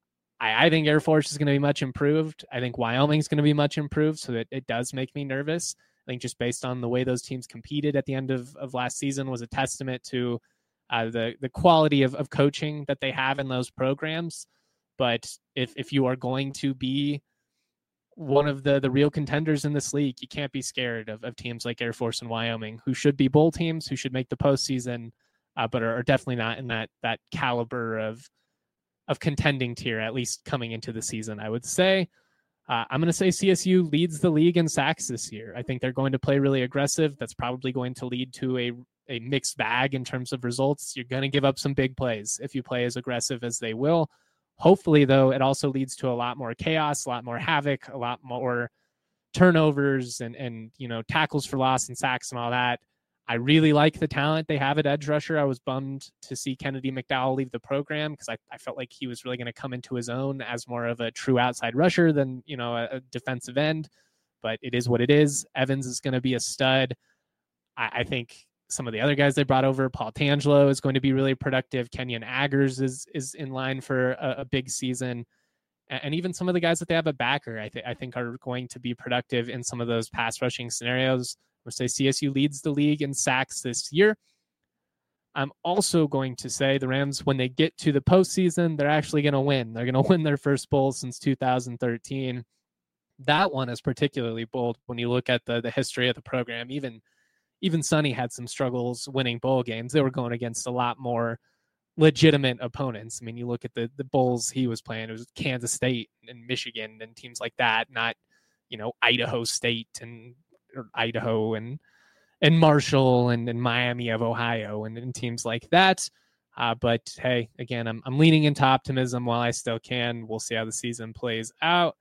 I think Air Force is going to be much improved. I think Wyoming is going to be much improved, so it does make me nervous. I think just based on the way those teams competed at the end of last season was a testament to the quality of coaching that they have in those programs. But if you are going to be one of the real contenders in this league, you can't be scared of teams like Air Force and Wyoming, who should be bowl teams, who should make the postseason, but are definitely not in that caliber of contending tier, at least coming into the season, I would say. I'm going to say CSU leads the league in sacks this year. I think they're going to play really aggressive. That's probably going to lead to a mixed bag in terms of results. You're going to give up some big plays if you play as aggressive as they will. Hopefully, though, it also leads to a lot more chaos, a lot more havoc, a lot more turnovers and tackles for loss and sacks and all that. I really like the talent they have at edge rusher. I was bummed to see Kennedy McDowell leave the program because I felt like he was really going to come into his own as more of a true outside rusher than, a defensive end. But it is what it is. Evans is going to be a stud. I think some of the other guys they brought over, Paul Tangelo is going to be really productive. Kenyon Aggers is in line for a big season. And even some of the guys that they have at backer, I think are going to be productive in some of those pass rushing scenarios. We'll say CSU leads the league in sacks this year. I'm also going to say the Rams, when they get to the postseason, they're actually going to win. They're going to win their first bowl since 2013. That one is particularly bold when you look at the history of the program. Even Sonny had some struggles winning bowl games. They were going against a lot more legitimate opponents. I mean, you look at the bowls he was playing, it was Kansas State and Michigan and teams like that, not, Idaho State and Idaho and Marshall and Miami of Ohio and teams like that. But hey, again, I'm leaning into optimism while I still can. We'll see how the season plays out.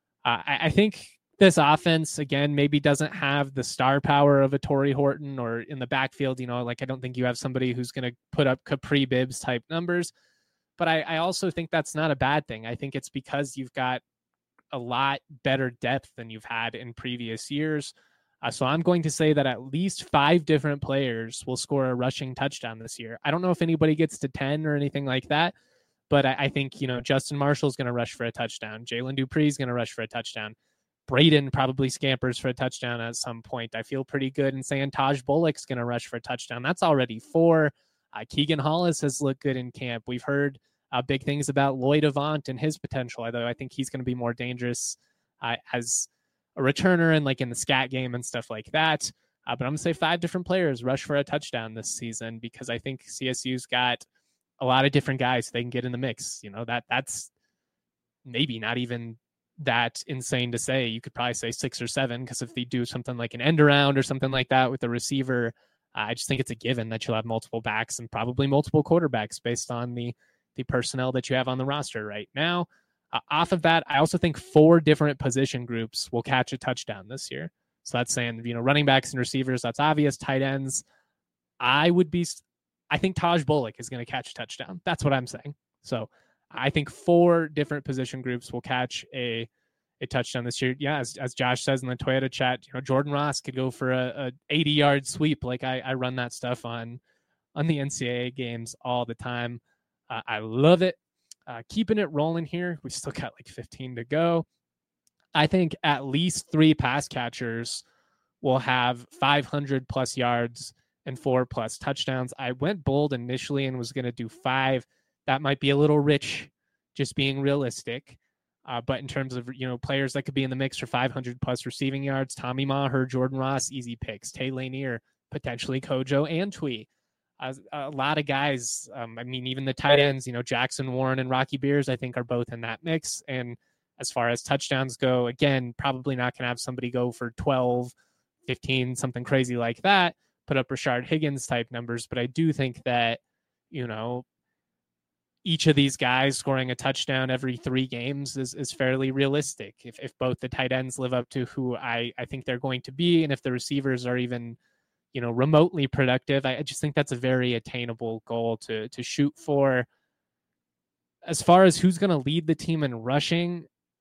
I think this offense, again, maybe doesn't have the star power of a Torrey Horton or in the backfield. I don't think you have somebody who's going to put up Capri Bibbs type numbers. But I also think that's not a bad thing. I think it's because you've got a lot better depth than you've had in previous years. So I'm going to say that at least 5 different players will score a rushing touchdown this year. I don't know if anybody gets to 10 or anything like that, but I think, Justin Marshall's going to rush for a touchdown. Jalen Dupree's going to rush for a touchdown. Braden probably scampers for a touchdown at some point. I feel pretty good in saying Taj Bullock's going to rush for a touchdown. That's already 4. Keegan Hollis has looked good in camp. We've heard big things about Lloyd Avant and his potential, although I think he's going to be more dangerous as a returner and like in the scat game and stuff like that. But I'm going to say 5 different players rush for a touchdown this season because I think CSU's got a lot of different guys they can get in the mix. That's maybe not even that insane to say. You could probably say 6 or 7 because if they do something like an end around or something like that with the receiver, I just think it's a given that you'll have multiple backs and probably multiple quarterbacks based on the personnel that you have on the roster right now. Off of that, I also think 4 different position groups will catch a touchdown this year. So that's saying, running backs and receivers, that's obvious. Tight ends, I think Taj Bullock is going to catch a touchdown. That's what I'm saying. So I think 4 different position groups will catch a touchdown this year. Yeah, as Josh says in the Toyota chat, Jordan Ross could go for a 80-yard sweep. Like I run that stuff on the NCAA games all the time. I love it. Keeping it rolling here. We still got like 15 to go. I think at least 3 pass catchers will have 500 plus yards and 4 plus touchdowns. I went bold initially and was going to do 5. That might be a little rich, just being realistic. But in terms of, players that could be in the mix for 500 plus receiving yards, Tommy Maher, Jordan Ross, easy picks. Tay Lanier, potentially Kojo and Twee. A lot of guys, even the tight ends, Jackson Warren and Rocky Beers, I think are both in that mix. And as far as touchdowns go, again, probably not going to have somebody go for 12, 15, something crazy like that, put up Rashard Higgins type numbers. But I do think that, each of these guys scoring a touchdown every 3 games is fairly realistic. If both the tight ends live up to who I think they're going to be, and if the receivers are even remotely productive, I just think that's a very attainable goal to shoot for. As far as who's going to lead the team in rushing,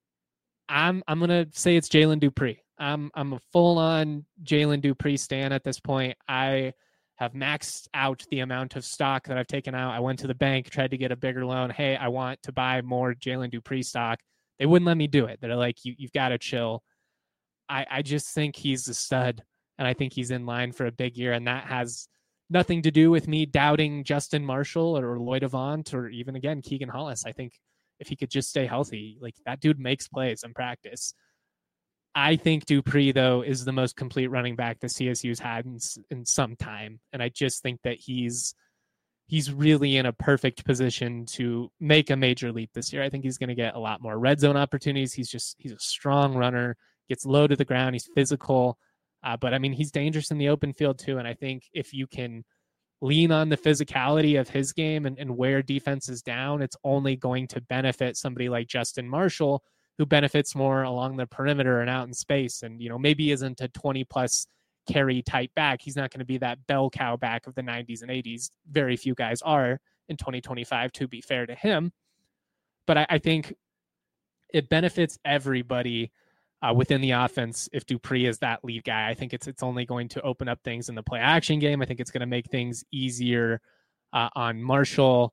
I'm going to say it's Jalen Dupree. I'm a full-on Jalen Dupree stan at this point. I have maxed out the amount of stock that I've taken out. I went to the bank, tried to get a bigger loan. Hey, I want to buy more Jalen Dupree stock. They wouldn't let me do it. They're like, you've got to chill. I just think he's a stud. And I think he's in line for a big year. And that has nothing to do with me doubting Justin Marshall or Lloyd Avant or even, again, Keegan Hollis. I think if he could just stay healthy, like that dude makes plays in practice. I think Dupree, though, is the most complete running back the CSU's had in some time. And I just think that he's really in a perfect position to make a major leap this year. I think he's going to get a lot more red zone opportunities. He's a strong runner, gets low to the ground. He's physical. But he's dangerous in the open field too. And I think if you can lean on the physicality of his game and wear defenses down, it's only going to benefit somebody like Justin Marshall, who benefits more along the perimeter and out in space. And, maybe isn't a 20 plus carry type back. He's not going to be that bell cow back of the 90s and 80s. Very few guys are in 2025, to be fair to him. But I think it benefits everybody within the offense if Dupree is that lead guy. I think it's only going to open up things in the play action game. I think it's going to make things easier on Marshall.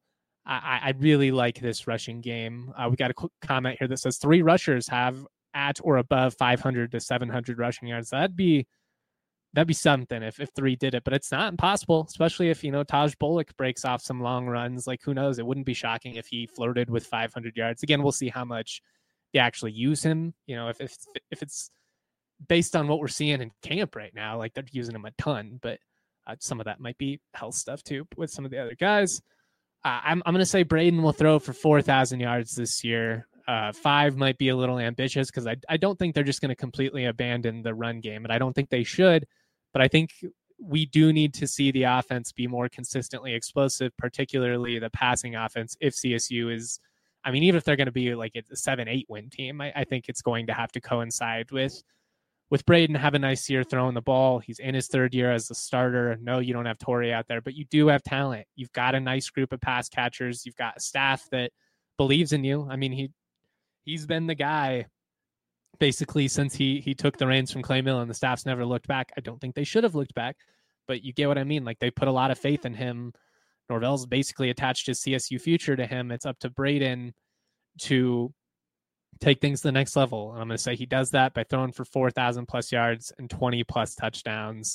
I really like this rushing game. We got a quick comment here that says 3 rushers have at or above 500 to 700 rushing yards. That'd be something if 3 did it, but it's not impossible, especially if, Taj Bullock breaks off some long runs. Like, who knows? It wouldn't be shocking if he flirted with 500 yards. Again, we'll see how much they actually use him. If it's based on what we're seeing in camp right now, like they're using him a ton, but some of that might be health stuff too with some of the other guys. I'm going to say Braden will throw for 4,000 yards this year. 5 might be a little ambitious because I don't think they're just going to completely abandon the run game, and I don't think they should, but I think we do need to see the offense be more consistently explosive, particularly the passing offense. If CSU is, even if they're going to be like a 7-8 win team, I think it's going to have to coincide with Braden have a nice year throwing the ball. He's in his 3rd year as a starter. No, you don't have Torrey out there, but you do have talent. You've got a nice group of pass catchers. You've got a staff that believes in you. He's been the guy basically since he took the reins from Clay Millen. The staff's never looked back. I don't think they should have looked back, but you get what I mean. Like, they put a lot of faith in him. Norvell's basically attached his CSU future to him. It's up to Braden to take things to the next level. And I'm going to say he does that by throwing for 4,000 plus yards and 20 plus touchdowns.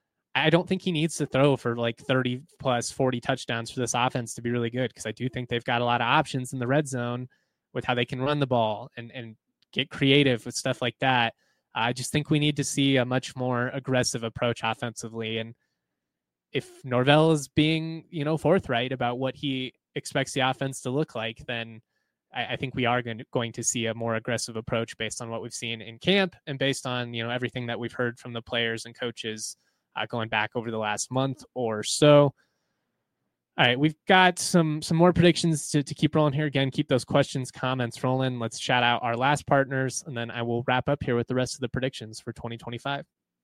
I don't think he needs to throw for like 30 plus 40 touchdowns for this offense to be really good, because I do think they've got a lot of options in the red zone with how they can run the ball and get creative with stuff like that. I just think we need to see a much more aggressive approach offensively. And if Norvell is being, forthright about what he expects the offense to look like, then I think we are going to see a more aggressive approach based on what we've seen in camp and based on, everything that we've heard from the players and coaches going back over the last month or so. All right, we've got some more predictions to keep rolling here. Again, keep those questions, comments rolling. Let's shout out our last partners, and then I will wrap up here with the rest of the predictions for 2025.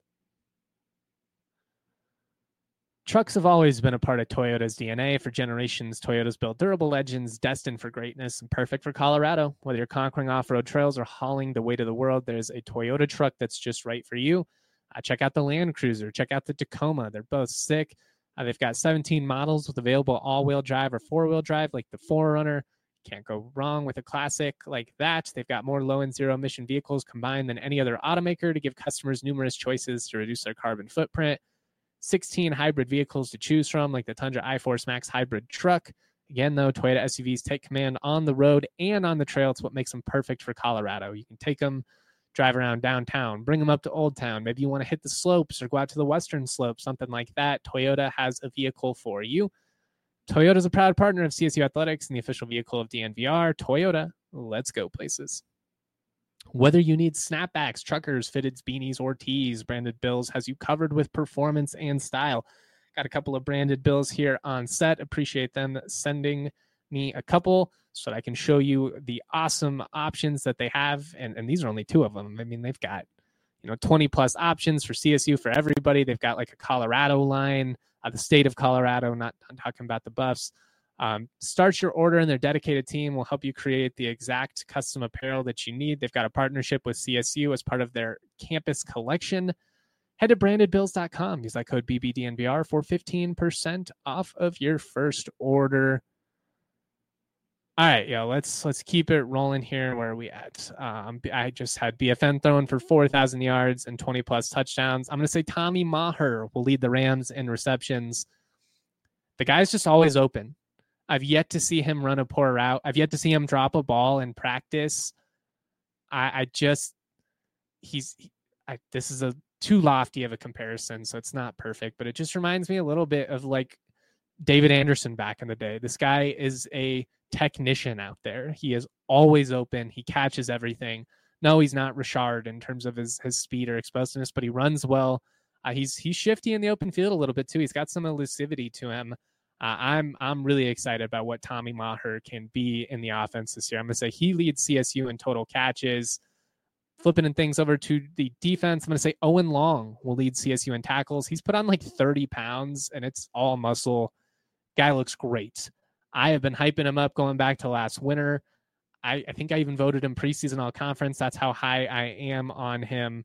Trucks have always been a part of Toyota's DNA. For generations, Toyota's built durable legends destined for greatness and perfect for Colorado. Whether you're conquering off-road trails or hauling the weight of the world, there's a Toyota truck that's just right for you. Check out the Land Cruiser. Check out the Tacoma. They're both sick. They've got 17 models with available all-wheel drive or four-wheel drive, like the 4Runner. Can't go wrong with a classic like that. They've got more low and zero-emission vehicles combined than any other automaker to give customers numerous choices to reduce their carbon footprint. 16 hybrid vehicles to choose from, like the Tundra iForce Max hybrid truck. Again, though, Toyota SUVs take command on the road and on the trail. It's what makes them perfect for Colorado. You can take them, drive around downtown, bring them up to Old Town. Maybe you want to hit the slopes or go out to the western slope, something like that. Toyota has a vehicle for you. Toyota is a proud partner of CSU Athletics and the official vehicle of DNVR. Toyota, let's go places. Whether you need snapbacks, truckers, fitteds, beanies, or tees, Branded Bills has you covered with performance and style. Got a couple of Branded Bills here on set. Appreciate them sending me a couple so that I can show you the awesome options that they have. And these are only two of them. I mean, they've got 20 plus options for CSU for everybody. They've got like a Colorado line, the state of Colorado, not talking about the Buffs. Start your order, and their dedicated team will help you create the exact custom apparel that you need. They've got a partnership with CSU as part of their campus collection. Head to brandedbills.com. Use that code BBDNVR for 15% off of your first order. All right, let's keep it rolling here. Where are we at? I just had BFN throwing for 4,000 yards and 20 plus touchdowns. I'm going to say Tommy Maher will lead the Rams in receptions. The guy's just always open. I've yet to see him run a poor route. I've yet to see him drop a ball in practice. This is a too lofty of a comparison, so it's not perfect, but it just reminds me a little bit of like David Anderson back in the day. This guy is a technician out there. He is always open. He catches everything. No, he's not Richard in terms of his speed or explosiveness, but he runs well. He's shifty in the open field a little bit too. He's got some elusivity to him. I'm really excited about what Tommy Maher can be in the offense this year. I'm going to say he leads CSU in total catches. Flipping things over to the defense, I'm going to say Owen Long will lead CSU in tackles. He's put on like 30 pounds, and it's all muscle. Guy looks great. I have been hyping him up going back to last winter. I think I even voted him preseason all-conference. That's how high I am on him.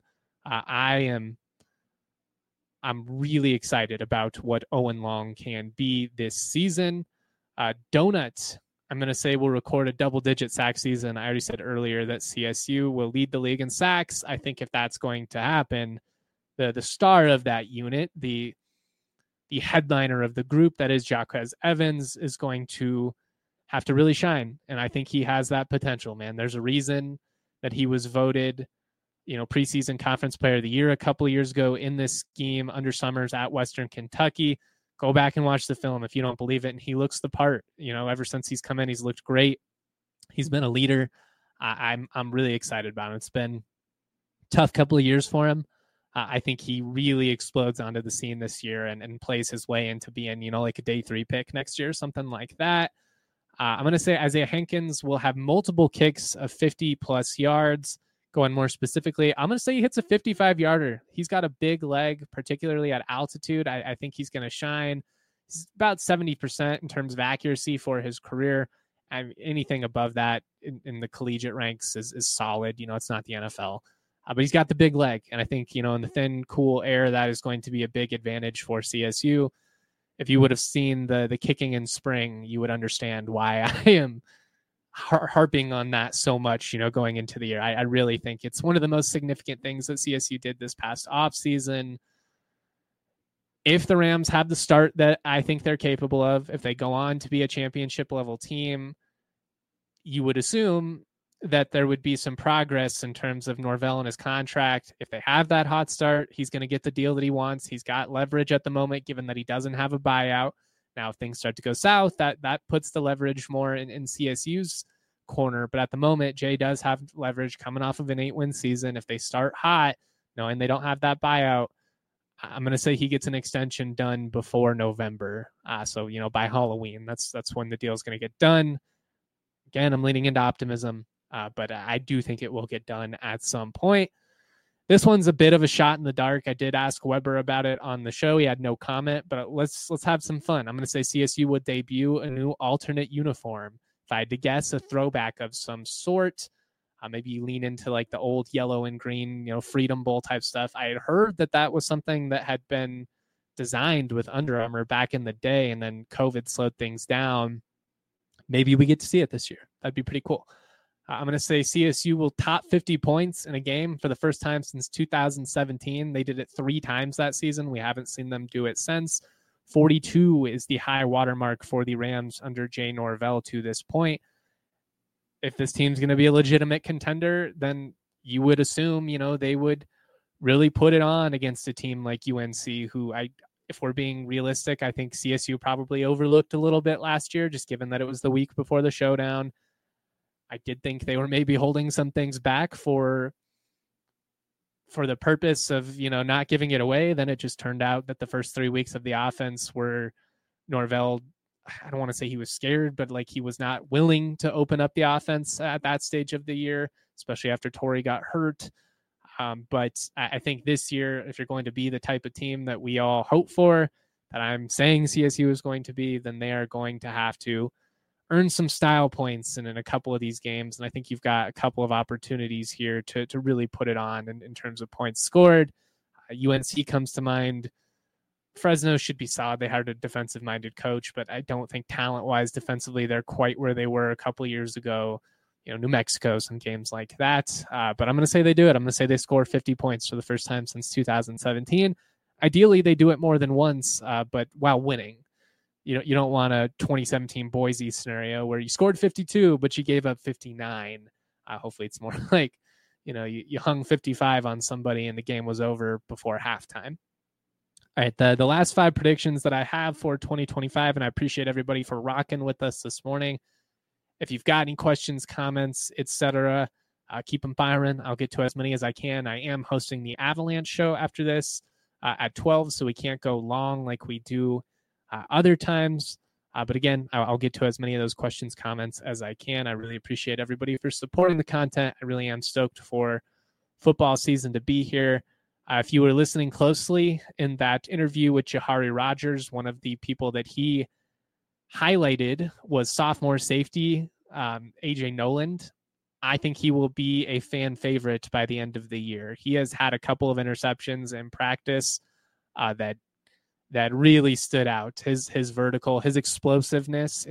I'm really excited about what Owen Long can be this season. Donut, I'm going to say, will record a double-digit sack season. I already said earlier that CSU will lead the league in sacks. I think if that's going to happen, the star of that unit, the headliner of the group, that is Jaquez Evans, is going to have to really shine. And I think he has that potential, man. There's a reason that he was voted preseason conference player of the year a couple of years ago in this scheme under Summers at Western Kentucky. Go back and watch the film if you don't believe it. And he looks the part. Ever since he's come in, he's looked great. He's been a leader. I'm really excited about him. It's been a tough couple of years for him. I think he really explodes onto the scene this year and plays his way into being, like a day 3 pick next year, something like that. I'm going to say Isaiah Hankins will have multiple kicks of 50 plus yards. Going more specifically, I'm going to say he hits a 55-yarder. He's got a big leg, particularly at altitude. I think he's going to shine. He's about 70% in terms of accuracy for his career. Anything above that in the collegiate ranks is solid. It's not the NFL. But he's got the big leg. And I think, in the thin, cool air, that is going to be a big advantage for CSU. If you would have seen the kicking in spring, you would understand why I am harping on that so much, going into the year. I really think it's one of the most significant things that CSU did this past offseason. If the Rams have the start that I think they're capable of, if they go on to be a championship level team, you would assume that there would be some progress in terms of Norvell and his contract. If they have that hot start, he's going to get the deal that he wants. He's got leverage at the moment, given that he doesn't have a buyout. Now, if things start to go south, that puts the leverage more in CSU's corner. But at the moment, Jay does have leverage coming off of an 8-win season. If they start hot, knowing they don't have that buyout, I'm going to say he gets an extension done before November. So, by Halloween, that's when the deal is going to get done. Again, I'm leaning into optimism, but I do think it will get done at some point. This one's a bit of a shot in the dark. I did ask Weber about it on the show. He had no comment, but let's have some fun. I'm going to say CSU would debut a new alternate uniform. If I had to guess, a throwback of some sort. Maybe you lean into like the old yellow and green, Freedom Bowl type stuff. I had heard that was something that had been designed with Under Armour back in the day, and then COVID slowed things down. Maybe we get to see it this year. That'd be pretty cool. I'm going to say CSU will top 50 points in a game for the first time since 2017. They did it 3 times that season. We haven't seen them do it since. 42 is the high watermark for the Rams under Jay Norvell to this point. If this team's going to be a legitimate contender, then you would assume, they would really put it on against a team like UNC, who if we're being realistic, I think CSU probably overlooked a little bit last year, just given that it was the week before the showdown. I did think they were maybe holding some things back for the purpose of, not giving it away. Then it just turned out that the first 3 weeks of the offense were Norvell. I don't want to say he was scared, but like he was not willing to open up the offense at that stage of the year, especially after Torrey got hurt. But I think this year, if you're going to be the type of team that we all hope for, that I'm saying CSU is going to be, then they are going to have to earn some style points in a couple of these games. And I think you've got a couple of opportunities here to really put it on in terms of points scored. UNC comes to mind. Fresno should be solid. They hired a defensive-minded coach, but I don't think talent-wise defensively they're quite where they were a couple of years ago. New Mexico, some games like that. But I'm going to say they do it. I'm going to say they score 50 points for the first time since 2017. Ideally, they do it more than once, but while winning. You don't want a 2017 Boise scenario where you scored 52, but you gave up 59. Hopefully it's more like, you hung 55 on somebody and the game was over before halftime. All right, the last 5 predictions that I have for 2025, and I appreciate everybody for rocking with us this morning. If you've got any questions, comments, etc., keep them firing. I'll get to as many as I can. I am hosting the Avalanche show after this at 12, so we can't go long like we do other times. But again, I'll get to as many of those questions, comments as I can. I really appreciate everybody for supporting the content. I really am stoked for football season to be here. If you were listening closely in that interview with Jahari Rogers, one of the people that he highlighted was sophomore safety, AJ Noland. I think he will be a fan favorite by the end of the year. He has had a couple of interceptions in practice that really stood out. His vertical, his explosiveness.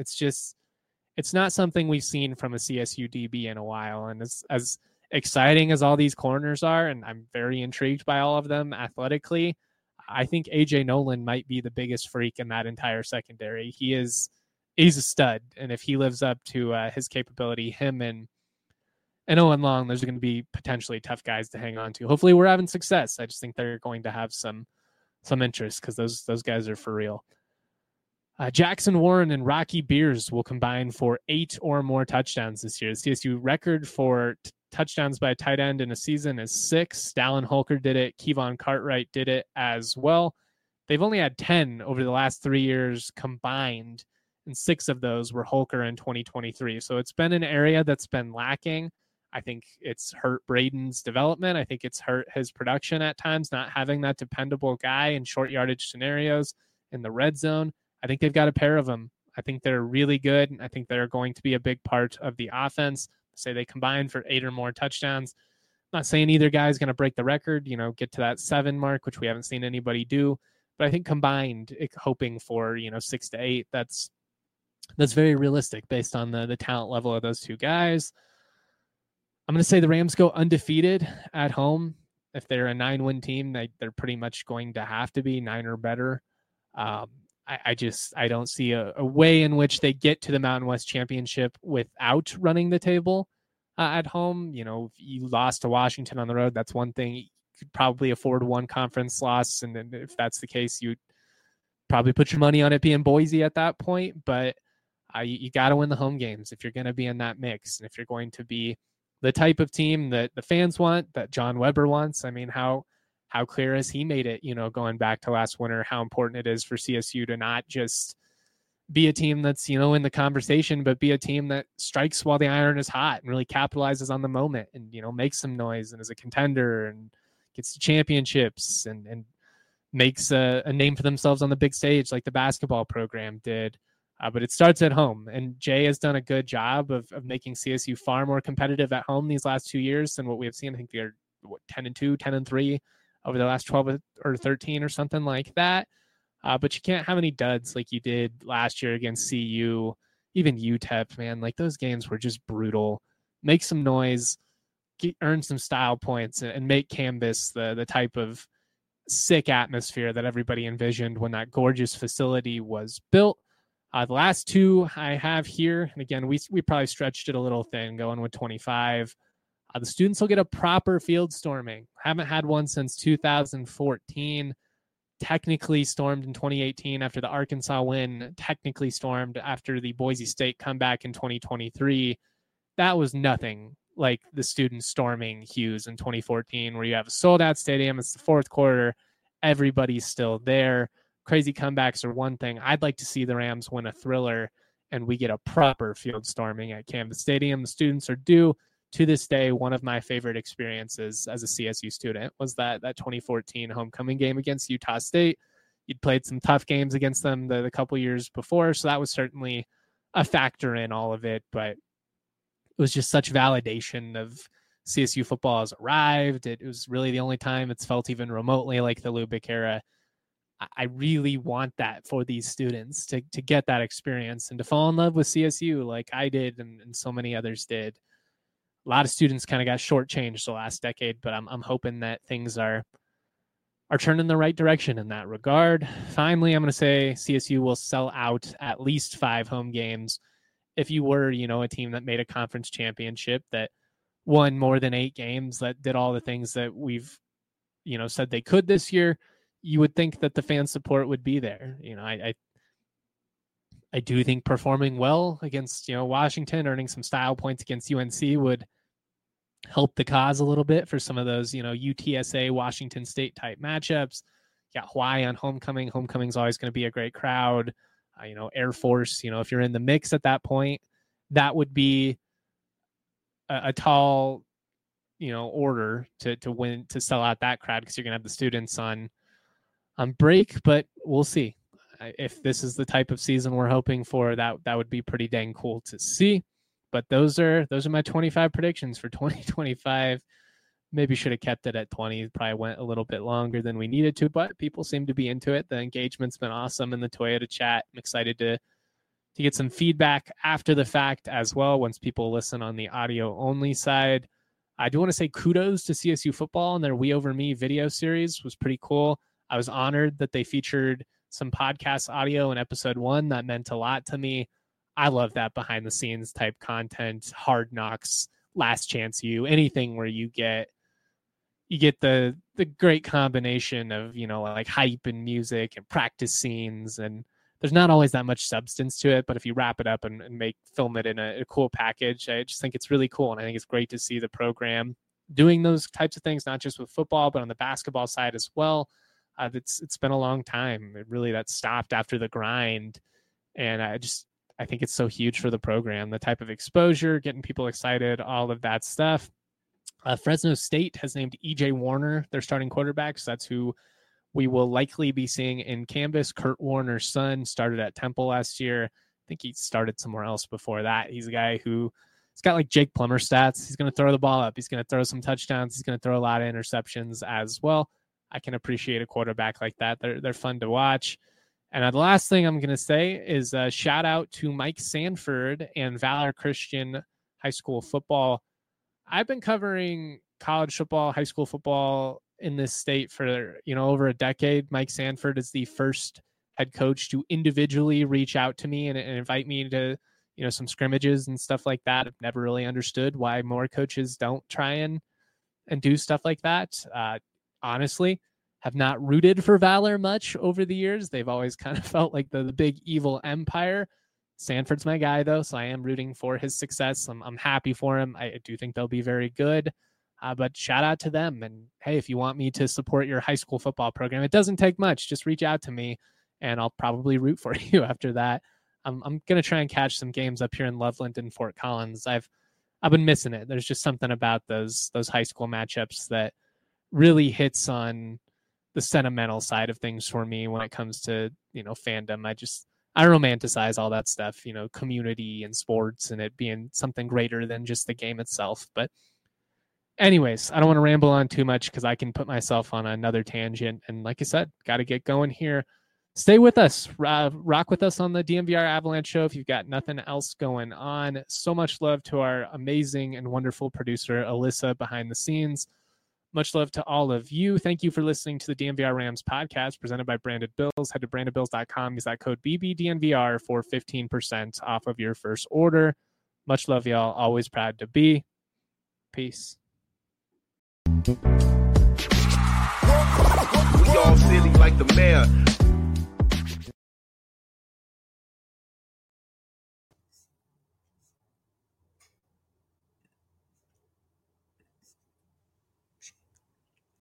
It's not something we've seen from a CSU DB in a while. And as exciting as all these corners are, and I'm very intrigued by all of them athletically, I think AJ Noland might be the biggest freak in that entire secondary. He's a stud. And if he lives up to his capability, him and Owen Long, there's going to be potentially tough guys to hang on to. Hopefully we're having success. I just think they're going to have some interest because those guys are for real. Jackson Warren and Rocky Beers will combine for 8 or more touchdowns this year. The CSU record for touchdowns by a tight end in a season is 6. Dallin Holker did it. Kevon Cartwright did it as well. They've only had 10 over the last 3 years combined, and 6 of those were Holker in 2023. So it's been an area that's been lacking. I think it's hurt Braden's development. I think it's hurt his production at times, not having that dependable guy in short yardage scenarios in the red zone. I think they've got a pair of them. I think they're really good. I think they're going to be a big part of the offense. Say they combine for 8 or more touchdowns. I'm not saying either guy is going to break the record, get to that 7 mark, which we haven't seen anybody do. But I think combined, hoping for, 6 to 8, that's very realistic based on the talent level of those two guys. I'm going to say the Rams go undefeated at home. If they're a 9-win team, they're pretty much going to have to be 9 or better. I don't see a way in which they get to the Mountain West Championship without running the table at home. If you lost to Washington on the road, that's one thing. You could probably afford one conference loss. And then if that's the case, you'd probably put your money on it being Boise at that point. But you got to win the home games if you're going to be in that mix. And if you're going to be the type of team that the fans want, that John Weber wants. I mean, how how clear has he made it, going back to last winter, how important it is for CSU to not just be a team that's, in the conversation, but be a team that strikes while the iron is hot and really capitalizes on the moment and, makes some noise and is a contender and gets to championships and makes a name for themselves on the big stage like the basketball program did. But it starts at home, and Jay has done a good job of making CSU far more competitive at home these last 2 years than what we have seen. I think they're 10-2, 10-3 over the last 12 or 13 or something like that. But you can't have any duds like you did last year against CU, even UTEP, man. Like those games were just brutal. Make some noise, earn some style points, and make Canvas the type of sick atmosphere that everybody envisioned when that gorgeous facility was built. The last two I have here, and again, we probably stretched it a little thin going with 25. The students will get a proper field storming. Haven't had one since 2014. Technically stormed in 2018 after the Arkansas win. Technically stormed after the Boise State comeback in 2023. That was nothing like the students storming Hughes in 2014, where you have a sold-out stadium. It's the fourth quarter. Everybody's still there. Crazy comebacks are one thing. I'd like to see the Rams win a thriller and we get a proper field storming at Canvas Stadium. The students are due. To this day, one of my favorite experiences as a CSU student was that 2014 homecoming game against Utah State. You'd played some tough games against them the couple years before, so that was certainly a factor in all of it, but it was just such validation of CSU football has arrived. It was really the only time it's felt even remotely like the Lubick era. I really want that for these students to get that experience and to fall in love with CSU like I did and so many others did. A lot of students kind of got shortchanged the last decade, but I'm hoping that things are turning the right direction in that regard. Finally, I'm going to say CSU will sell out at least 5 home games. If you were, a team that made a conference championship, that won more than 8 games, that did all the things that we've, said they could this year, you would think that the fan support would be there. I do think performing well against, Washington, earning some style points against UNC would help the cause a little bit for some of those, UTSA, Washington State type matchups. You got Hawaii on homecoming. Homecoming's always going to be a great crowd. Air Force, if you're in the mix at that point, that would be a tall, order to win, to sell out that crowd, because you're going to have the students on break, but we'll see. If this is the type of season we're hoping for, that would be pretty dang cool to see. But those are my 25 predictions for 2025. Maybe should have kept it at 20. Probably went a little bit longer than we needed to, but people seem to be into it. The engagement's been awesome in the Toyota chat. I'm excited to get some feedback after the fact as well, once people listen on the audio only side. I do want to say kudos to CSU football, and their We Over Me video series was pretty cool. I was honored that they featured some podcast audio in episode 1. That meant a lot to me. I love that behind the scenes type content, Hard Knocks, Last Chance U, anything where you get the great combination of, like hype and music and practice scenes. And there's not always that much substance to it, but if you wrap it up and film it in a cool package, I just think it's really cool. And I think it's great to see the program doing those types of things, not just with football, but on the basketball side as well. It's been a long time. That stopped after the grind. And I think it's so huge for the program, the type of exposure, getting people excited, all of that stuff. Fresno State has named EJ Warner their starting quarterback. So that's who we will likely be seeing in Canvas. Kurt Warner's son started at Temple last year. I think he started somewhere else before that. He's a guy who's got like Jake Plummer stats. He's going to throw the ball up. He's going to throw some touchdowns. He's going to throw a lot of interceptions as well. I can appreciate a quarterback like that. They're fun to watch. And the last thing I'm going to say is a shout out to Mike Sanford and Valor Christian High School football. I've been covering college football, high school football in this state for, over a decade. Mike Sanford is the first head coach to individually reach out to me and invite me to, some scrimmages and stuff like that. I've never really understood why more coaches don't try and do stuff like that. Honestly, have not rooted for Valor much over the years. They've always kind of felt like the big evil empire. Sanford's my guy, though, so I am rooting for his success. I'm happy for him. I do think they'll be very good. But shout out to them. And hey, if you want me to support your high school football program, it doesn't take much. Just reach out to me and I'll probably root for you after that. I'm going to try and catch some games up here in Loveland and Fort Collins. I've been missing it. There's just something about those high school matchups that really hits on the sentimental side of things for me when it comes to, fandom. I romanticize all that stuff, community and sports and it being something greater than just the game itself. But anyways, I don't want to ramble on too much because I can put myself on another tangent. And like I said, got to get going here. Stay with us. Rock with us on the DNVR Avalanche Show if you've got nothing else going on. So much love to our amazing and wonderful producer, Alyssa, behind the scenes. Much love to all of you. Thank you for listening to the DNVR Rams podcast presented by Branded Bills. Head to brandedbills.com. Use that code BBDNVR for 15% off of your first order. Much love, y'all. Always proud to be. Peace. We all silly like the mayor.